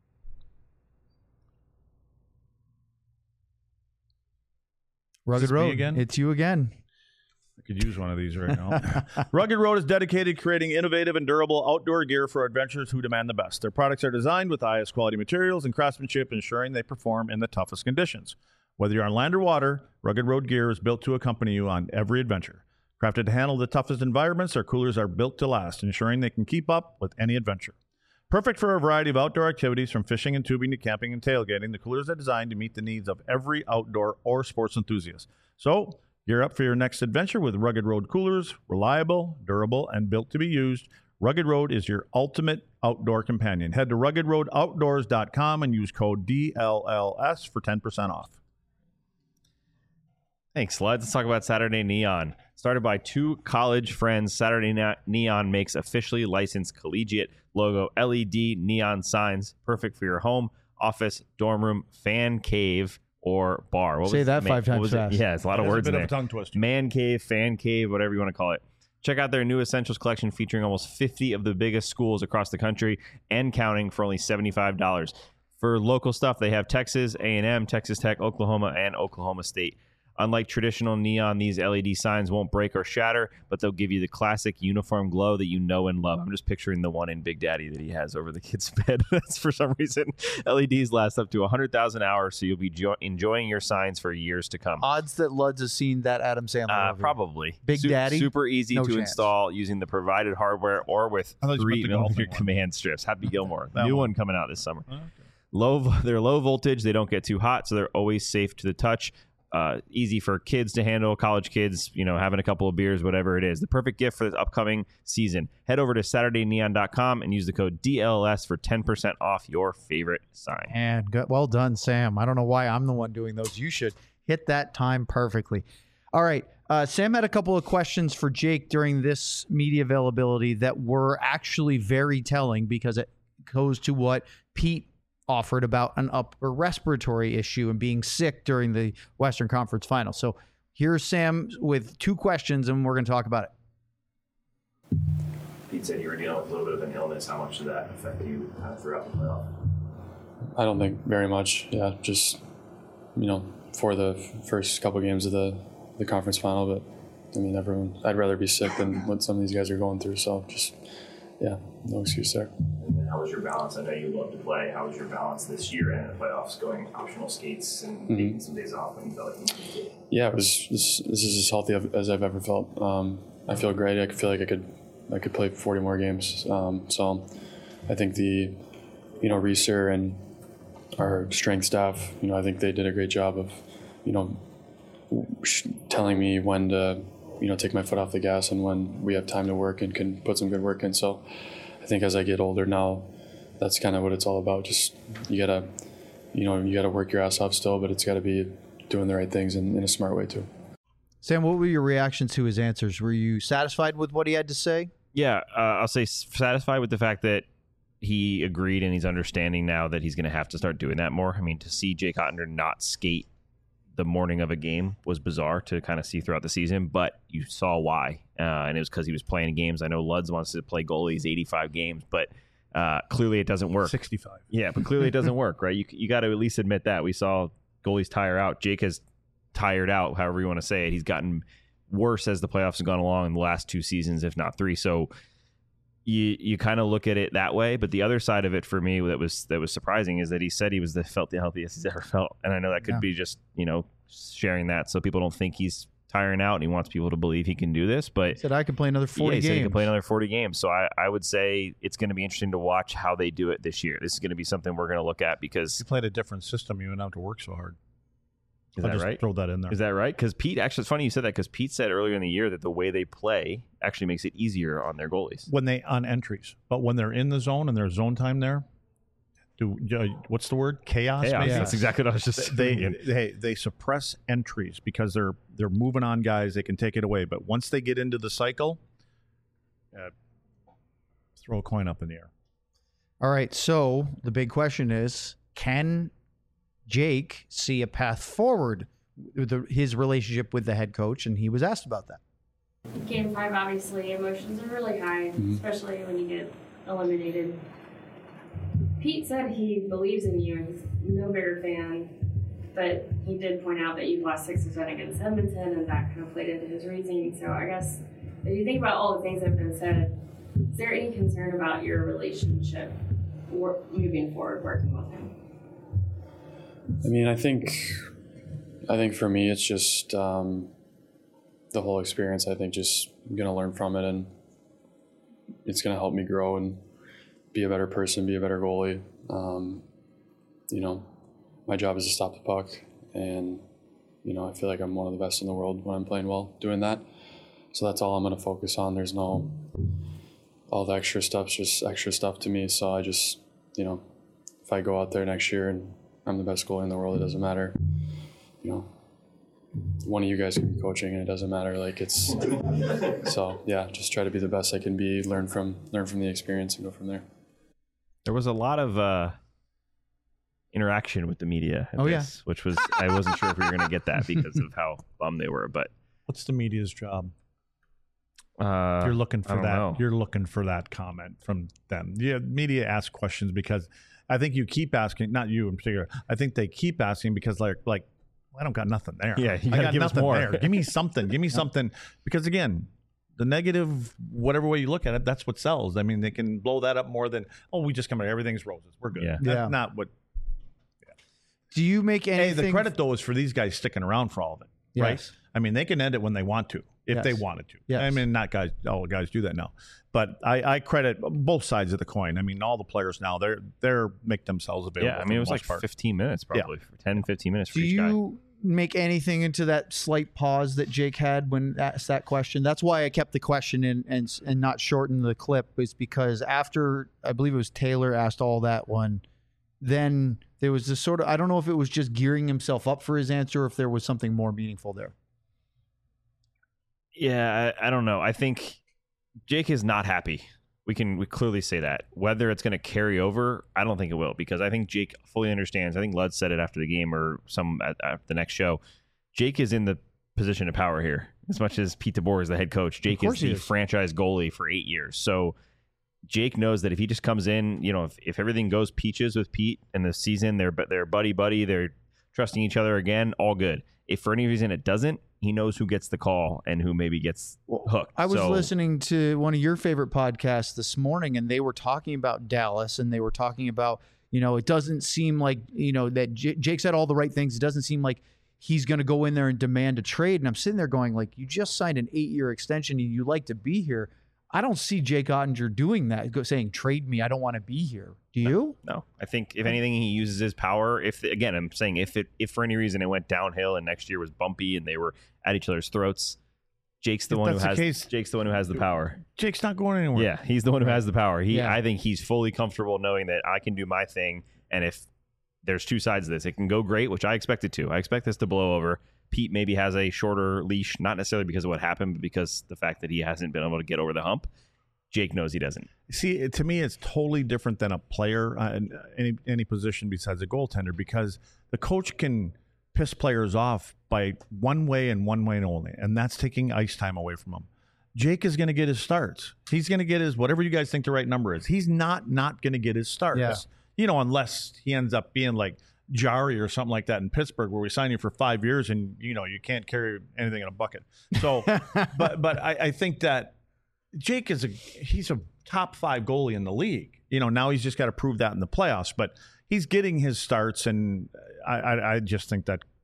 Rugged this me Road. again? It's you again. I could use one of these right now. Rugged Road is dedicated to creating innovative and durable outdoor gear for adventurers who demand the best. Their products are designed with the highest quality materials and craftsmanship, ensuring they perform in the toughest conditions. Whether you're on land or water, Rugged Road gear is built to accompany you on every adventure. Crafted to handle the toughest environments, our coolers are built to last, ensuring they can keep up with any adventure. Perfect for a variety of outdoor activities, from fishing and tubing to camping and tailgating, the coolers are designed to meet the needs of every outdoor or sports enthusiast. So, gear up for your next adventure with Rugged Road coolers. Reliable, durable, and built to be used, Rugged Road is your ultimate outdoor companion. Head to rugged road outdoors dot com and use code D L L S for ten percent off. Thanks, Luds. Let's talk about Saturday Neon. Started by two college friends, Saturday Ne- Neon makes officially licensed collegiate logo L E D neon signs, perfect for your home, office, dorm room, fan cave, or bar. What Say was that man- five times what was it? fast. Yeah, it's a lot of It is words a in bit there. of a tongue twister. Man cave, fan cave, whatever you want to call it. Check out their new Essentials collection featuring almost fifty of the biggest schools across the country and counting for only seventy-five dollars. For local stuff, they have Texas A and M, Texas Tech, Oklahoma, and Oklahoma State. Unlike traditional neon, these L E D signs won't break or shatter, but they'll give you the classic uniform glow that you know and love. I'm just picturing the one in Big Daddy that he has over the kid's bed. That's for some reason. L E Ds last up to one hundred thousand hours, so you'll be jo- enjoying your signs for years to come. Odds that Luds has seen that Adam Sandler Uh, movie. probably. Big Su- Daddy? Super easy No to chance. install using the provided hardware or with I thought you three meant the golfing millimeter one. command strips. Happy Gilmore. That New one. one coming out this summer. Okay. Low, they're low voltage. They don't get too hot, so they're always safe to the touch. Uh, easy for kids to handle, college kids, you know, having a couple of beers, whatever it is. The perfect gift for this upcoming season. Head over to saturday neon dot com and use the code D L S for ten percent off your favorite sign. And good, well done, Sam. I don't know why I'm the one doing those. You should hit that time perfectly. All right. Uh, Sam had a couple of questions for Jake during this media availability that were actually very telling because it goes to what Pete offered about an upper respiratory issue and being sick during the Western Conference Final. So here's Sam with two questions, and we're going to talk about it. Pete said you were dealing with a little bit of an illness. How much did that affect you kind of throughout the playoff? I don't think very much. Yeah, just you know, for the first couple games of the the conference final. But I mean, everyone. I'd rather be sick than what some of these guys are going through. So just yeah, no excuse there. And then how was your balance? I know you love to play. How was your balance this year and in the playoffs, going optional skates and Mm-hmm. taking some days off when you felt like you needed to? Yeah, it was. This, this is as healthy as I've ever felt. Um, I feel great. I feel like I could, I could play forty more games. Um, so, I think the, you know, Reeser and our strength staff, you know, I think they did a great job of, you know, sh- telling me when to, you know, take my foot off the gas and when we have time to work and can put some good work in. So, I think as I get older now, that's kind of what it's all about. Just you gotta, you know, you gotta work your ass off still, but it's got to be doing the right things in, in a smart way too. Sam, what were your reactions to his answers? Were you satisfied with what he had to say? Yeah, uh, I'll say satisfied with the fact that he agreed and he's understanding now that he's going to have to start doing that more. I mean, to see Jake Ottender not skate the morning of a game was bizarre to kind of see throughout the season, but you saw why. Uh, and it was because he was playing games. I know Luds wants to play goalies eighty-five games, but uh, clearly it doesn't work. sixty-five. Yeah, but clearly it doesn't work, right? You you got to at least admit that. We saw goalies tire out. Jake has tired out, however you want to say it. He's gotten worse as the playoffs have gone along in the last two seasons, if not three. So you you kind of look at it that way. But the other side of it for me that was that was surprising is that he said he was the felt the healthiest he's ever felt. And I know that could Yeah. be just, you know, sharing that so people don't think he's tiring out and he wants people to believe he can do this. But He said I could play another forty yeah, he games. said he can play another forty games. So I, I would say it's going to be interesting to watch how they do it this year. This is going to be something we're going to look at because You played a different system. You didn't have to work so hard. is I'll that just right? throw that in there. Is that right? Because Pete, actually, it's funny you said that because Pete said earlier in the year that the way they play actually makes it easier on their goalies. When they on entries, but when they're in the zone and there's zone time there, do uh, what's the word? Chaos. Chaos. maybe? That's exactly what I was just They saying. they they suppress entries because they're they're moving on guys. They can take it away, but once they get into the cycle, uh, throw a coin up in the air. All right, so the big question is, can Jake see a path forward with the, his relationship with the head coach? And he was asked about that. Game five, obviously, emotions are really high, especially when you get eliminated. Pete said he believes in you and he's no bigger fan, but he did point out that you lost six to ten against Edmonton, and that kind of played into his reasoning. So I guess if you think about all the things that have been said, is there any concern about your relationship or moving forward working with him? I mean, I think, I think for me, it's just um, the whole experience. I think just I'm gonna learn from it, and it's gonna help me grow and be a better person, be a better goalie. Um, you know, my job is to stop the puck, and you know, I feel like I'm one of the best in the world when I'm playing well doing that. So that's all I'm gonna focus on. There's no all the extra stuff's just extra stuff to me. So I just, you know, if I go out there next year and I'm the best goalie in the world, it doesn't matter. You know, one of you guys can be coaching and it doesn't matter. Like it's, so yeah, just try to be the best I can be, learn from, learn from the experience and go from there. There was a lot of uh, interaction with the media at Oh, yeah. this, which was, I wasn't sure if we were going to get that because of how bummed they were, but What's the media's job? uh, You're looking I for don't that. know. You're looking for that comment from them. Yeah, media ask questions because I think you keep asking. Not you in particular. I think they keep asking because like like I don't got nothing there. Yeah, you I gotta got give us nothing more. there. Give me something. Give me something. Because again, the negative, whatever way you look at it, that's what sells. I mean, they can blow that up more than oh, we just come out. Everything's roses. We're good. Yeah. That's Yeah. not what. Do you make Hey, anything? the credit though is for these guys sticking around for all of it, right? Yes. I mean, they can end it when they want to, if Yes. they wanted to. Yes. I mean, not guys, all the guys do that now, but I, I credit both sides of the coin. I mean, all the players now they're they're make themselves available. yeah, I for mean, the it was most like part. fifteen minutes probably, for ten, fifteen minutes for Do each guy. you make anything into that slight pause that Jake had when asked that question? That's why I kept the question in and and not shorten the clip, is because after I believe it was Taylor asked all that one, then there was this sort of, I don't know if it was just gearing himself up for his answer or if there was something more meaningful there. Yeah, I, I don't know. I think Jake is not happy. We can we clearly say that. Whether it's going to carry over, I don't think it will, because I think Jake fully understands. I think Lud said it after the game or some at, at the next show. Jake is in the position of power here. As much as Pete DeBoer is the head coach, Jake is course he the is. franchise goalie for eight years. So Jake knows that if he just comes in, you know, if, if everything goes peaches with Pete in the season, they're they're buddy buddy, they're trusting each other again, all good. If for any reason it doesn't, he knows who gets the call and who maybe gets hooked. I was So- listening to one of your favorite podcasts this morning, and they were talking about Dallas, and they were talking about, you know, it doesn't seem like, you know, that J- Jake said all the right things. It doesn't seem like he's going to go in there and demand a trade. And I'm sitting there going, like, you just signed an eight-year extension and you like to be here. I don't see Jake Ottinger doing that, go, saying, trade me, I don't want to be here. Do you? No, I think if anything, he uses his power. If again, I'm saying if it if for any reason it went downhill and next year was bumpy and they were at each other's throats, Jake's the If one who that's the has case- Jake's the one who has the power. Jake's not going anywhere. Yeah, he's the one who has the power. He, Yeah. I think he's fully comfortable knowing that I can do my thing, and if there's two sides of this, it can go great, which I expect it to. I expect this to blow over. Pete maybe has a shorter leash, not necessarily because of what happened, but because the fact that he hasn't been able to get over the hump. Jake knows he doesn't. See, it- to me, it's totally different than a player uh, in any any position besides a goaltender, because the coach can piss players off by one way and one way only, and that's taking ice time away from them. Jake is going to get his starts. He's going to get his whatever you guys think the right number is. He's not not going to get his starts. Yeah. You know, unless he ends up being like Jari or something like that in Pittsburgh, where we sign you for five years and you know you can't carry anything in a bucket. So, but but I, I think that Jake is a he's a top five goalie in the league. You know, now he's just got to prove that in the playoffs. But he's getting his starts, and I, I, I just think that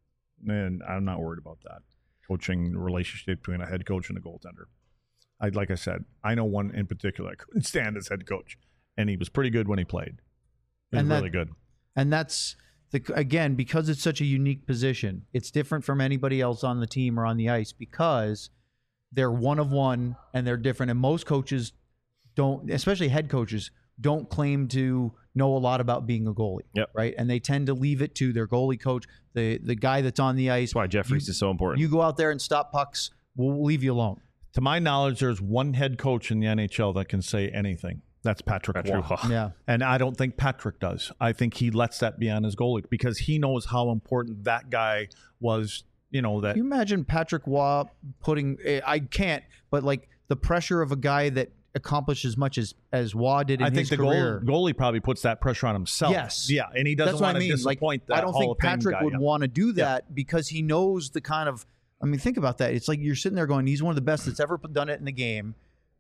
and I'm not worried about that. Coaching relationship between a head coach and a goaltender. I like I said, I know one in particular I couldn't stand as head coach, and he was pretty good when he played. He was And that- really good. And that's the again, because it's such a unique position, it's different from anybody else on the team or on the ice because they're one of one and they're different. And most coaches don't, especially head coaches, don't claim to know a lot about being a goalie. Yep. Right. And they tend to leave it to their goalie coach, the the guy that's on the ice. That's why Jeff Reese is so important. You go out there and stop pucks, we'll leave you alone. To my knowledge, there's one head coach in the N H L that can say anything. That's Patrick, Patrick Waugh. Waugh. Yeah. And I don't think Patrick does. I think he lets that be on his goalie because he knows how important that guy was, you know, that Can you imagine Patrick Waugh putting, I can't, but like the pressure of a guy that accomplished as much as, as Waugh did in I think his the career. goal, goalie probably puts that pressure on himself. Yes. Yeah, and he doesn't That's what want I to mean. Like, disappoint that I don't Hall think of Fame Patrick guy. would Yeah. want to do that because he knows the kind of, I mean, think about that. It's like you're sitting there going, he's one of the best that's ever done it in the game.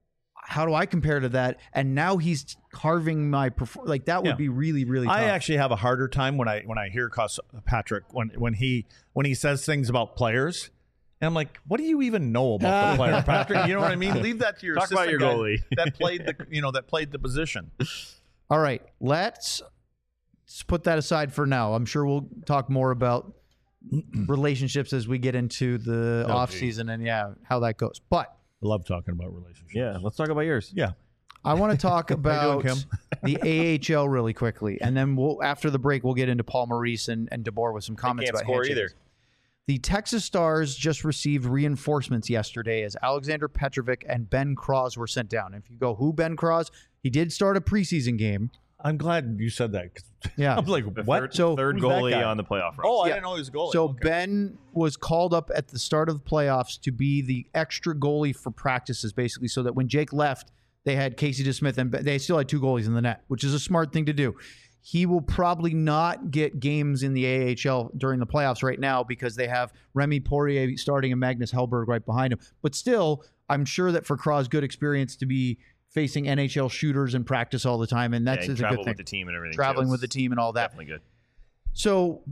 How do I compare to that? And now he's carving my perform. Like that would Yeah. be really, really tough. I actually have a harder time when I when I hear Cos- Patrick when when he when he says things about players, and I'm like, what do you even know about the player, Patrick? You know what I mean? Leave that to your Talk about assistant your guy goalie. that played the you know that played the position. All right, let's, let's put that aside for now. I'm sure we'll talk more about relationships as we get into the Oh, off gee. season and yeah, how that goes. But I love talking about relationships. Yeah, let's talk about yours. yeah. I want to talk you about doing, Kim? the A H L really quickly, and then we'll after the break we'll get into Paul Maurice and, and DeBoer with some comments can't about score handshakes. either. The Texas Stars just received reinforcements yesterday as Alexander Petrovic and Ben Cross were sent down. If you go, who Ben Cross? He did start a preseason game. I'm glad you said that. 'Cause Yeah. I'm like, The what? Third, So- third Who's that goalie guy? on the playoff run. Oh, I Yeah. didn't know he was a goalie. So Okay. Ben was called up at the start of the playoffs to be the extra goalie for practices, basically, so that when Jake left, they had Casey DeSmith and they still had two goalies in the net, which is a smart thing to do. He will probably not get games in the A H L during the playoffs right now because they have Remy Poirier starting and Magnus Hellberg right behind him. But still, I'm sure that for Cross, good experience to be facing N H L shooters in practice all the time, and that's yeah, and is a good travel thing. with the team and everything. Traveling too. with the It's team and all that. Definitely good. So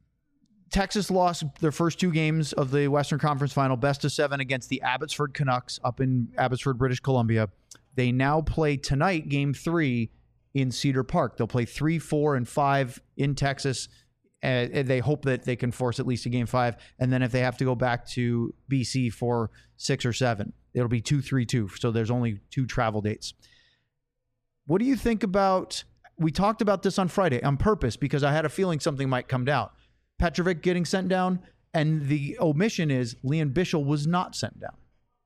Texas lost their first two games of the Western Conference Final, best of seven against the Abbotsford Canucks up in Abbotsford, British Columbia. They now play tonight, game three, in Cedar Park. They'll play three, four, and five in Texas. Uh, and they hope that they can force at least a game five. And then if they have to go back to B C for six or seven, it'll be two, three, two. So there's only two travel dates. What do you think about, we talked about this on Friday on purpose because I had a feeling something might come down. Petrovic getting sent down, and the omission is Leon Bichel was not sent down.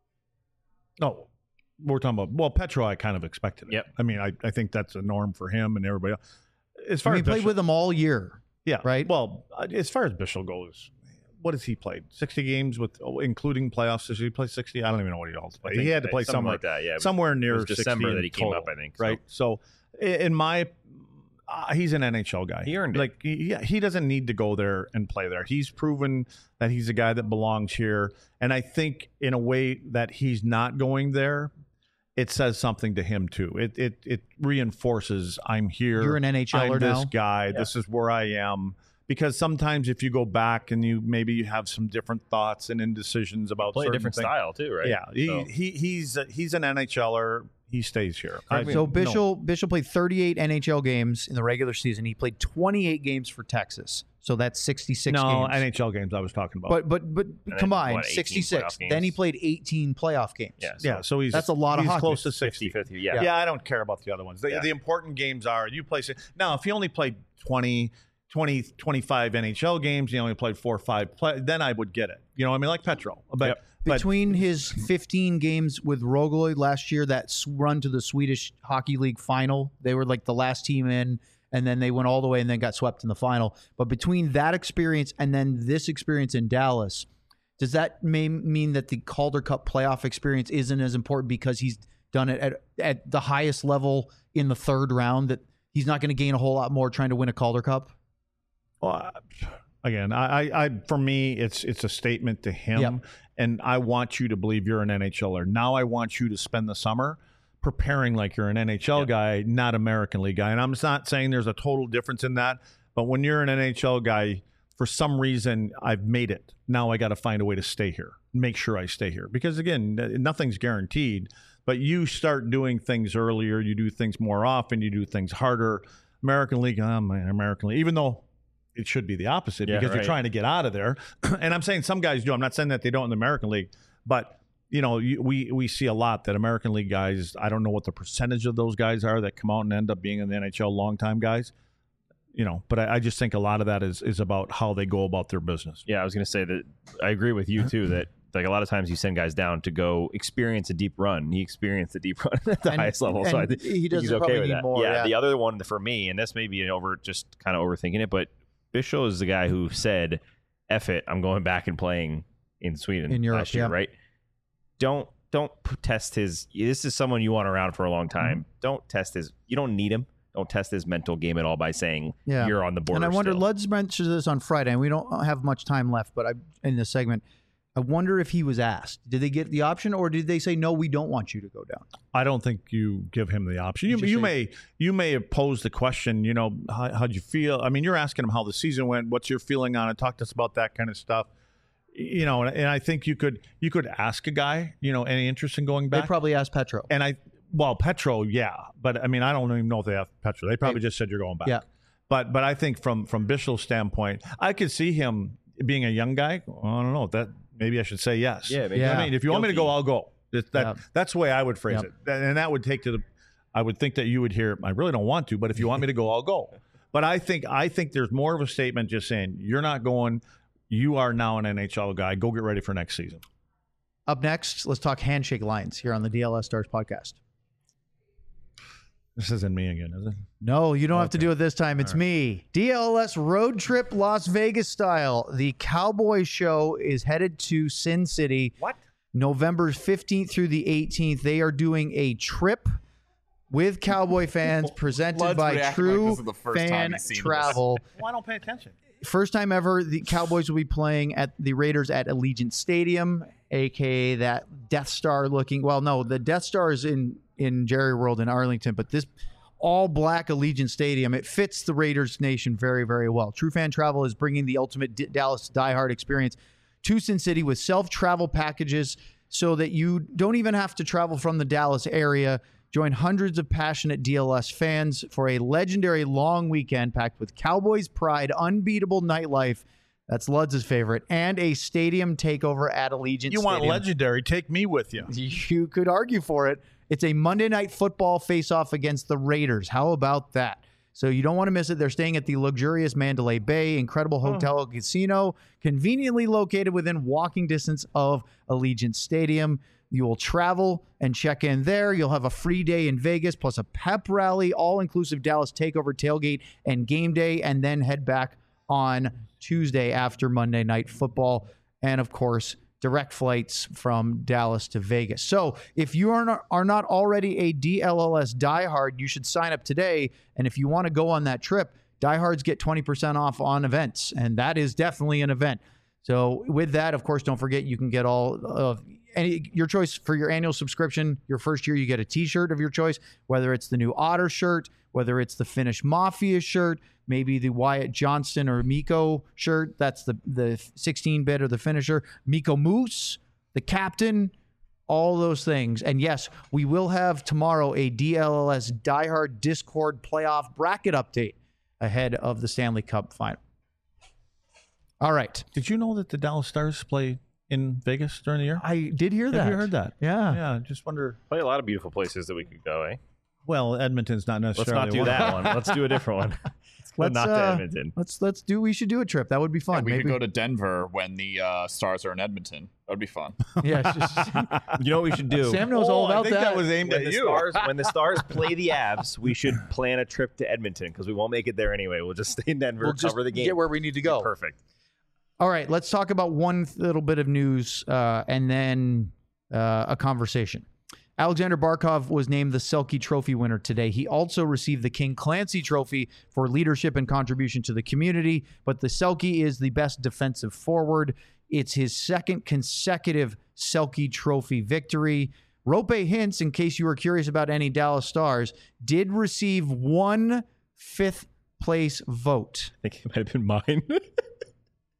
No, we're talking about, well, Petro, I kind of expected it. Yep. I mean, I, I think that's a norm for him and everybody else. As far I mean, as he played Bichel- with him all year. yeah, right? Well, uh, as far as Bichel goes, what has he played? sixty games with, oh, including playoffs. Did he play sixty? I don't even know what he all I played. think He had to that- play something somewhere like that. Yeah, it was- somewhere near it was December sixty that in he came total, up, I think, so. Right. So, i- in my, uh, he's an N H L guy. He earned it. Like, he, yeah, he doesn't need to go there and play there. He's proven that he's a guy that belongs here, and I think in a way that he's not going there, it says something to him too. It it it reinforces I'm here. You're an N H L er I'm this now. guy. This is where I am. Because sometimes if you go back and you maybe you have some different thoughts and indecisions about play a certain different things. style too, right? Yeah, he, So- he he's he's an N H L er. He stays here. I- So no. Bichel Bichel played thirty-eight N H L games in the regular season. He played twenty-eight games for Texas. So that's sixty-six no games. N H L games I was talking about. But but but then, combined, what, eighteen sixty-six. playoff games? Then he played eighteen playoff games. Yeah, so yeah, so he's That's a lot of he's hockey. close to sixty. fifty fifty. Yeah. Yeah. I don't care about the other ones. The, Yeah. the important games are you play. Now, if he only played twenty, twenty, twenty-five N H L games, he only played four or five, play, then I would get it. You know what I mean? Like Petro. But, Yep. but Between his fifteen games with Rogaloy last year, that s- run to the Swedish Hockey League final, they were like the last team in, and then they went all the way and then got swept in the final. But between that experience and then this experience in Dallas, does that may mean that the Calder Cup playoff experience isn't as important because he's done it at, at the highest level in the third round, that he's not going to gain a whole lot more trying to win a Calder Cup? Well, I- again, I, I, I, for me, it's it's a statement to him, Yep. and I want you to believe you're an N H L er. Now I want you to spend the summer preparing like you're an N H L Yep. guy, not American League guy. And I'm not saying there's a total difference in that, but when you're an N H L guy, for some reason I've made it. Now I got to find a way to stay here, make sure I stay here. Because again, nothing's guaranteed, but you start doing things earlier, you do things more often, you do things harder. American League, oh man, American League, even though it should be the opposite Yeah, because right. you're trying to get out of there. And I'm saying some guys do. I'm not saying that they don't in the American League, but you know, you, we we see a lot that American League guys, I don't know what the percentage of those guys are that come out and end up being in the N H L long-time guys. You know, but I, I just think a lot of that is is about how they go about their business. Yeah, I was going to say that I agree with you too. That like a lot of times you send guys down to go experience a deep run. He experienced a deep run at the And- highest level, so I and think he doesn't he's okay probably with need that. more, yeah, yeah. the other one for me, and this may be an over just kind of overthinking it, but Bischoff is the guy who said, "F it, I'm going back and playing in Sweden In Europe, last year." yeah. Right? Don't don't p- test his. This is someone you want around for a long time. Mm-hmm. Don't test his. You don't need him. Don't test his mental game at all by saying Yeah. you're on the board. And I wonder, still. Luds mentioned this on Friday, and we don't have much time left, but I in this segment, I wonder if he was asked. Did they get the option, or did they say, no, we don't want you to go down? I don't think you give him the option. You, You just you say- may you may have posed the question, you know, how, how'd you feel? I mean, you're asking him how the season went. What's your feeling on it? Talk to us about that kind of stuff. You know, and, and I think you could you could ask a guy, you know, any interest in going They back? probably asked Petro. and I, well, Petro, yeah, but I mean, I don't even know if they have Petro. They probably just said you're going back. Yeah. But but I think from from Bishel's standpoint, I could see him being a young guy. I don't know that maybe I should say yes. Yeah, maybe. Yeah. I mean, if you want me to go, I'll go. That, that Yeah. that's the way I would phrase Yep. it, That- and that would take to the. I would think that you would hear. I really don't want to, but if you want me to go, I'll go. But I think I think there's more of a statement just saying you're not going. You are now an N H L guy. Go get ready for next season. Up next, let's talk handshake lines here on the D L S Stars podcast. This isn't me again, is it? No, you don't have to Okay. do it this time. It's me. D L S road trip Las Vegas style. The Cowboys show is headed to Sin City. What? November fifteenth through the eighteenth. They are doing a trip with Cowboy fans presented Lud's by reacting True like this is the first time Fan he's seen this. Travel. Well, I don't pay attention. First time ever, the Cowboys will be playing at the Raiders at Allegiant Stadium, aka that Death Star looking. Well, no, the Death Star is in in Jerry World in Arlington, but this all black Allegiant Stadium, it fits the Raiders nation very, very well. True Fan Travel is bringing the ultimate D- Dallas diehard experience to Sin City with self-travel packages so that you don't even have to travel from the Dallas area. Join hundreds of passionate D L S fans for a legendary long weekend packed with Cowboys pride, unbeatable nightlife. That's Luds' favorite, and a stadium takeover at Allegiant You Stadium. want legendary? Take me with you. You could argue for it. It's a Monday Night Football face-off against the Raiders. How about that? So you don't want to miss it. They're staying at the luxurious Mandalay Bay, incredible hotel and casino, conveniently located within walking distance of Allegiant Stadium. You will travel and check in there. You'll have a free day in Vegas, plus a pep rally, all-inclusive Dallas takeover, tailgate, and game day, and then head back on Tuesday after Monday Night Football. And, of course, direct flights from Dallas to Vegas. So if you are not, are not already a D L L S diehard, you should sign up today. And if you want to go on that trip, diehards get twenty percent off on events. And that is definitely an event. So with that, of course, don't forget you can get all of any your choice for your annual subscription. Your first year, you get a t-shirt of your choice, whether it's the new Otter shirt, whether it's the Finnish Mafia shirt, maybe the Wyatt Johnston or Miko shirt. That's the the sixteen bit or the finisher. Miko Moose, the captain, all those things. And yes, we will have tomorrow a D L L S diehard Discord playoff bracket update ahead of the Stanley Cup final. All right. Did you know that the Dallas Stars play in Vegas during the year? I did hear that. Have you heard that? Yeah. Yeah. I just wonder. Probably a lot of beautiful places that we could go, eh? Well, Edmonton's not Let's necessarily. not do one. that one. Let's do a different one. Let's go Let's, not to uh, Edmonton. Let's let's do. We should do a trip. That would be Yeah, fun. we Maybe could go to Denver when the uh, Stars are in Edmonton. That would be fun. Yeah. it's just- You know what we should do? Sam knows Oh, all I about think that. that was aimed when at the you. stars when the stars play the Avs, we should plan a trip to Edmonton because we won't make it there anyway. We'll just stay in Denver, We'll just cover the game. get where we need to go. Perfect. All right, let's talk about one little bit of news uh, and then uh, a conversation. Alexander Barkov was named the Selke Trophy winner today. He also received the King Clancy Trophy for leadership and contribution to the community, but the Selke is the best defensive forward. It's his second consecutive Selke Trophy victory. Rope Hintz, in case you were curious about any Dallas Stars, did receive one fifth place vote. I think it might have been mine.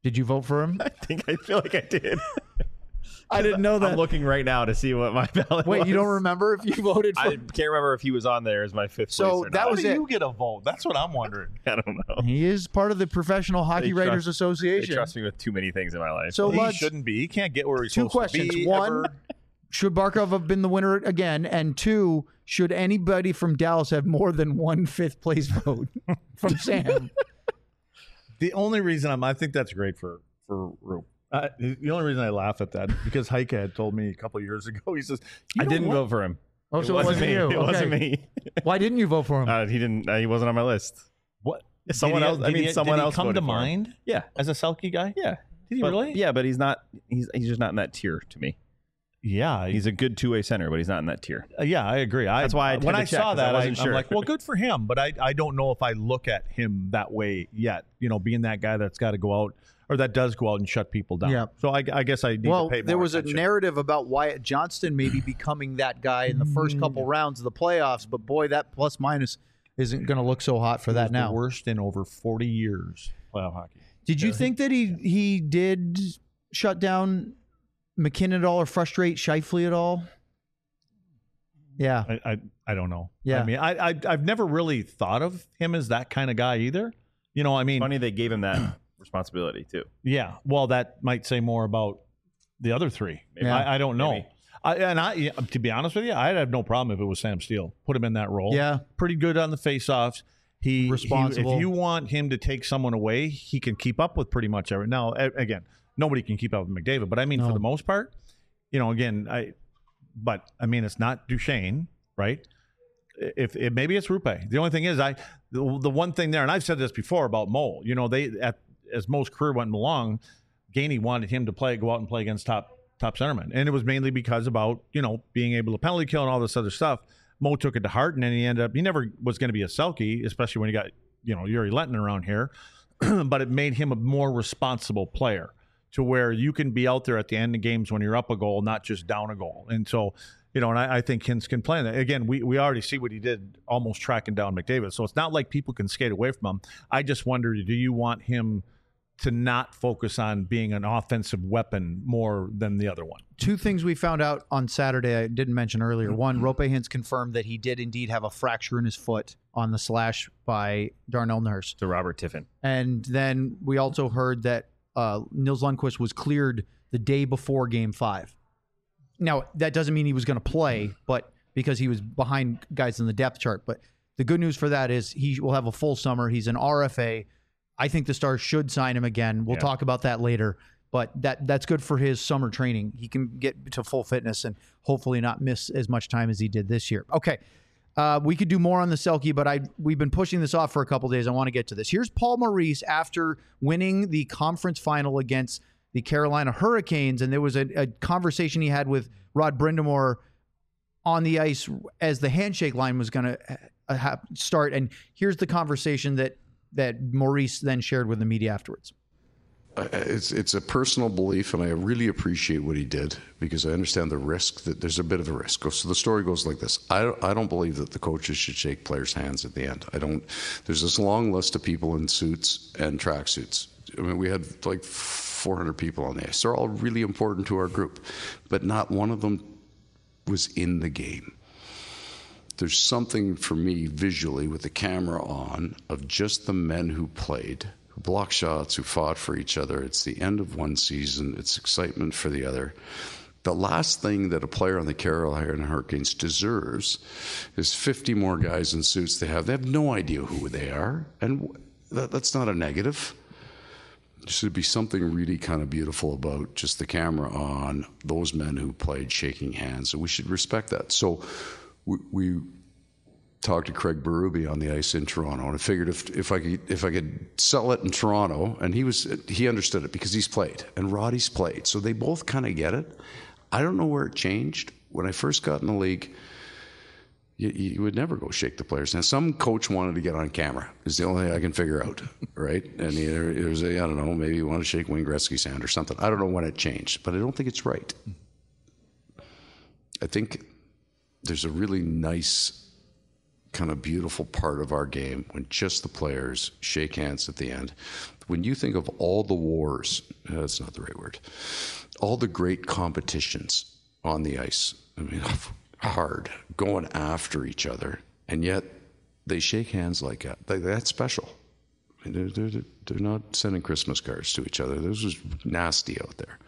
Did you vote for him? I think I feel like I did. I didn't know that. I'm looking right now to see what my ballot Wait, was. you don't remember if you voted for I can't remember if he was on there as my fifth So place or that not. was How do it. you get a vote? That's what I'm wondering. I don't know. He is part of the Professional Hockey They Writers trust- Association. They trust me with too many things in my life. So He let's, shouldn't be. He can't get where he's two supposed questions. to be. One, ever. should Barkov have been the winner again? And two, should anybody from Dallas have more than one fifth place vote from Sam? The only reason I'm, I think that's great for for Roop. Uh, the only reason I laugh at that because Heike had told me a couple of years ago. He says, you I know didn't what? vote for him. Oh, so it wasn't, me. you. It wasn't Okay. me. Why didn't you vote for him? Uh, he didn't. Uh, he wasn't on my list. What? Someone Did he- else. I did mean, he- someone did he else come voted to for him. mind Yeah, as a Selke guy. yeah. Did he But- really? Yeah, but he's not. He's he's just not in that tier to me. Yeah, He's a good two way center, but he's not in that tier. Uh, yeah, I agree. I, That's why I when tend to I check, saw 'cause I that, I wasn't I'm sure. like, well, good for him. But I, I don't know if I look at him that way yet. You know, being that guy that's got to go out or that does go out and shut people down. Yeah. So I, I guess I need Well, to pay more there was attention. a narrative about Wyatt Johnston maybe becoming that guy in the first couple rounds of the playoffs, but boy, that plus minus isn't going to look so hot for He that was now. the worst in over forty years playoff hockey. Did you think that he he did shut down McKinnon at all or frustrate Scheifele at all? Yeah. I, I, I don't know. Yeah. I mean, I, I, I've never really thought of him as that kind of guy either. You know, I mean, Funny they gave him that responsibility too. yeah. Well, that might say more about the other three. Yeah. I, I don't know. Maybe. I, and I, yeah, to be honest with you, I'd have no problem if it was Sam Steele. Put him in that role. Yeah. Pretty good on the faceoffs. He he- Responsible. if you want him to take someone away, he can keep up with pretty much every. Now, a- again, nobody can keep up with McDavid, but I mean, No. for the most part, you know, again, I. But I mean, it's not Duchesne, right? If, if maybe it's Rupe. The only thing is, I the, the one thing there, and I've said this before about Mo. You know, they at as Mo's career went along, Gainey wanted him to play, go out and play against top top centermen, and it was mainly because about you know being able to penalty kill and all this other stuff. Mo took it to heart, and then he ended up. He never was going to be a Selke, especially when he got you know Yuri Lenton around here. But it made him a more responsible player, to where you can be out there at the end of games when you're up a goal, not just down a goal. And so, you know, and I, I think Hintz can play that. Again, we, we already see what he did almost tracking down McDavid. So it's not like people can skate away from him. I just wonder, do you want him to not focus on being an offensive weapon more than the other one? Two things we found out on Saturday I didn't mention earlier. One, Rope Hintz confirmed that he did indeed have a fracture in his foot on the slash by Darnell Nurse. To Robert Tiffin. And then we also heard that uh, Nils Lundqvist was cleared the day before Game Five. Now that doesn't mean he was going to play, but because he was behind guys in the depth chart. But the good news for that is he will have a full summer. He's an R F A. I think the Stars should sign him again. We'll Yeah. talk about that later. But that that's good for his summer training. He can get to full fitness and hopefully not miss as much time as he did this year. Okay. Uh, we could do more on the Selke, but I we've been pushing this off for a couple days. I want to get to this. Here's Paul Maurice after winning the conference final against the Carolina Hurricanes, and there was a, a conversation he had with Rod Brindamore on the ice as the handshake line was going to uh, ha- start. And here's the conversation that that Maurice then shared with the media afterwards. Uh, It's it's a personal belief, and I really appreciate what he did because I understand the risk. That there's a bit of a risk. So the story goes like this: I don't, I don't believe that the coaches should shake players' hands at the end. I don't. There's this long list of people in suits and tracksuits. I mean, we had like four hundred people on the ice. They're all really important to our group, but not one of them was in the game. There's something for me visually with the camera on of just the men who played, who blocked shots, who fought for each other. It's the end of one season. It's excitement for the other. The last thing that a player on the Carolina Hurricanes deserves is fifty more guys in suits they have. They have no idea who they are, and that, that's not a negative. There should be something really kind of beautiful about just the camera on those men who played shaking hands, and we should respect that. So we, we talked to Craig Berube on the ice in Toronto, and I figured if if I could if I could sell it in Toronto, and he was he understood it because he's played and Roddy's played, so they both kind of get it. I don't know where it changed. When I first got in the league, you, you would never go shake the players' hands. Some coach wanted to get on camera. Is the only thing I can figure out, right? And either it was a, I don't know, maybe you want to shake Wayne Gretzky's hand or something. I don't know when it changed, but I don't think it's right. I think there's a really nice kind of beautiful part of our game when just the players shake hands at the end. When you think of all the wars, uh, that's not the right word, all the great competitions on the ice, I mean, hard, going after each other, and yet they shake hands like that. That's special. I mean, they're, they're, they're not sending Christmas cards to each other. This was nasty out there.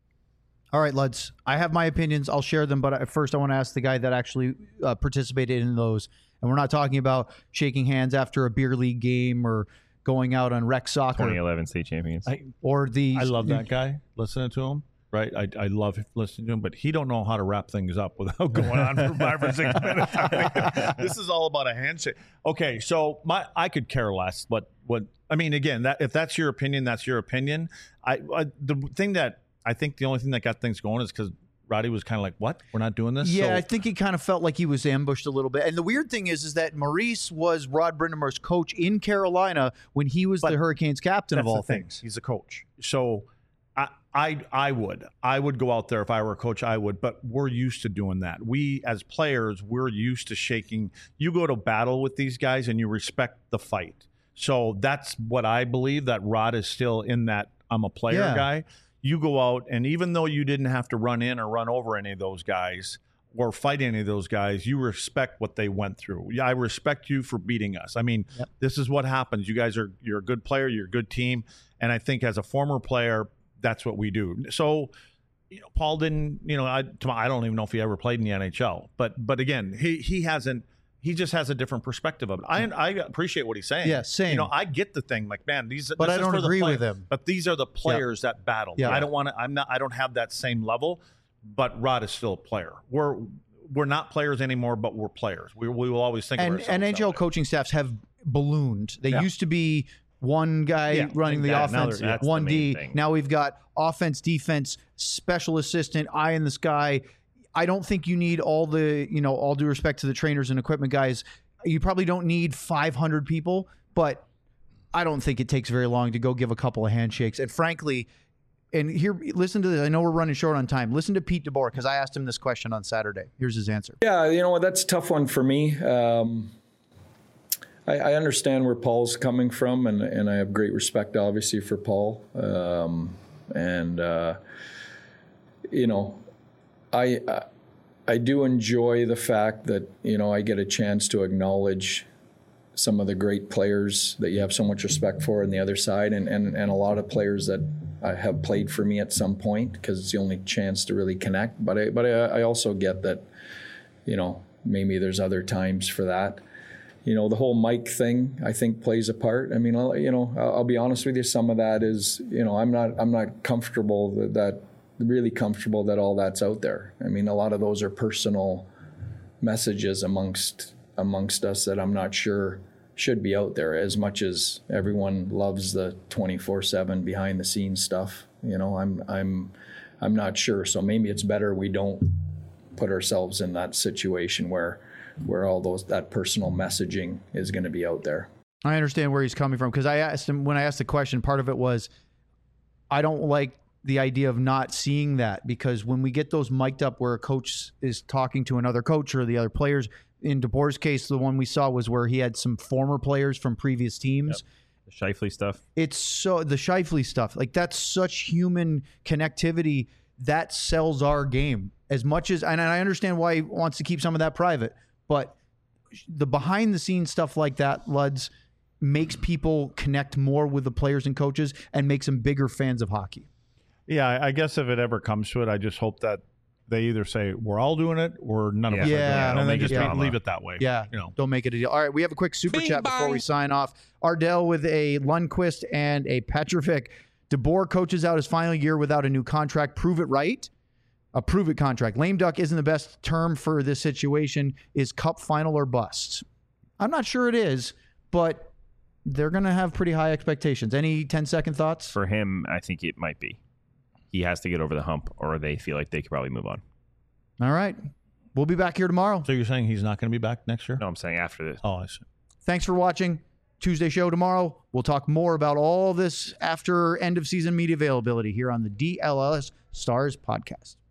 All right, Luds, I have my opinions. I'll share them, but first I want to ask the guy that actually uh, participated in those. And we're not talking about shaking hands after a beer league game or going out on rec soccer. twenty eleven state champions. I, or the I love that guy, listening to him. Right, I, I love listening to him, but he don't know how to wrap things up without going on for five or six minutes. This is all about a handshake. Okay, so my I could care less, but what I mean again, that if that's your opinion, that's your opinion. I, I the thing that I think the only thing that got things going is because Roddy was kind of like, "What? We're not doing this." Yeah, so, I think he kind of felt like he was ambushed a little bit. And the weird thing is, is that Maurice was Rod Brind'Amour's coach in Carolina when he was the Hurricanes captain of all things. He's a coach, so. I, I I would. I would go out there if I were a coach, I would, but we're used to doing that. We, as players, we're used to shaking. You go to battle with these guys and you respect the fight. So that's what I believe, that Rod is still in that I'm a player Yeah. guy. You go out, and even though you didn't have to run in or run over any of those guys or fight any of those guys, you respect what they went through. Yeah, I respect you for beating us. I mean, Yep. this is what happens. You guys are, you're a good player, you're a good team. And I think as a former player, that's what we do. So, you know, Paul didn't, you know, I, I don't even know if he ever played in the N H L, but, but again, he, he hasn't, he just has a different perspective of it. I, I appreciate what he's saying. Yeah, same. You know, I get the thing, like, man, these, But this I is don't for the agree play- with him. But these are the players that battle. Yeah. I don't want to, I'm not, I don't have that same level, but Rod is still a player. We're, we're not players anymore, but we're players. We, we will always think of And ourselves N H L that way. coaching staffs have ballooned. They Yeah. used to be one guy Yeah, running the that- now offense, they're- that's the one main D. thing. Now we've got offense, defense, special assistant, eye in the sky. I don't think you need all the, you know, all due respect to the trainers and equipment guys, you probably don't need five hundred people, but I don't think it takes very long to go give a couple of handshakes. And frankly, and here, listen to this. I know we're running short on time. Listen to Pete DeBoer, because I asked him this question on Saturday. Here's his answer. Yeah, you know what? That's a tough one for me. Um, I, I understand where Paul's coming from, and, and I have great respect, obviously, for Paul. Um, and, uh, you know, I, I I do enjoy the fact that, you know, I get a chance to acknowledge some of the great players that you have so much respect for on the other side, and, and, and a lot of players that I have played for me at some point, because it's the only chance to really connect. But I, but I, I also get that, you know, maybe there's other times for that. You know, the whole mic thing, I think, plays a part. I mean, I'll, you know, I'll, I'll be honest with you. Some of that is, you know, I'm not, I'm not comfortable that, that, really comfortable that all that's out there. I mean, a lot of those are personal messages amongst amongst us that I'm not sure should be out there. As much as everyone loves the twenty-four seven behind the scenes stuff, you know, I'm I'm I'm not sure. So maybe it's better we don't put ourselves in that situation where where all those that personal messaging is going to be out there. I understand where he's coming from, because I asked him, when I asked the question, part of it was, I don't like the idea of not seeing that, because when we get those mic'd up where a coach is talking to another coach or the other players, in DeBoer's case, the one we saw was where he had some former players from previous teams. Yep. The Scheifele stuff. It's so the Scheifele stuff, like that's such human connectivity that sells our game as much as, and I understand why he wants to keep some of that private, but the behind the scenes stuff like that, Luds, makes people connect more with the players and coaches and makes them bigger fans of hockey. Yeah, I- I guess if it ever comes to it, I just hope that they either say we're all doing it or none of us Yeah. are doing it, Yeah, and don't then make it just drama. leave it that way. Yeah, you know. don't make it a deal. All right, we have a quick super chat before we sign off. Ardell with a Lundqvist and a Petrovic. DeBoer coaches out his final year without a new contract. Prove it right. A prove it contract. Lame duck isn't the best term for this situation. Is cup final or bust? I'm not sure it is, but they're going to have pretty high expectations. Any ten second thoughts? For him, I think it might be. He has to get over the hump, or they feel like they could probably move on. All right. We'll be back here tomorrow. So you're saying he's not going to be back next year? No, I'm saying after this. Oh, I see. Thanks for watching. Tuesday show tomorrow. We'll talk more about all this after end of season media availability here on the D L S Stars podcast.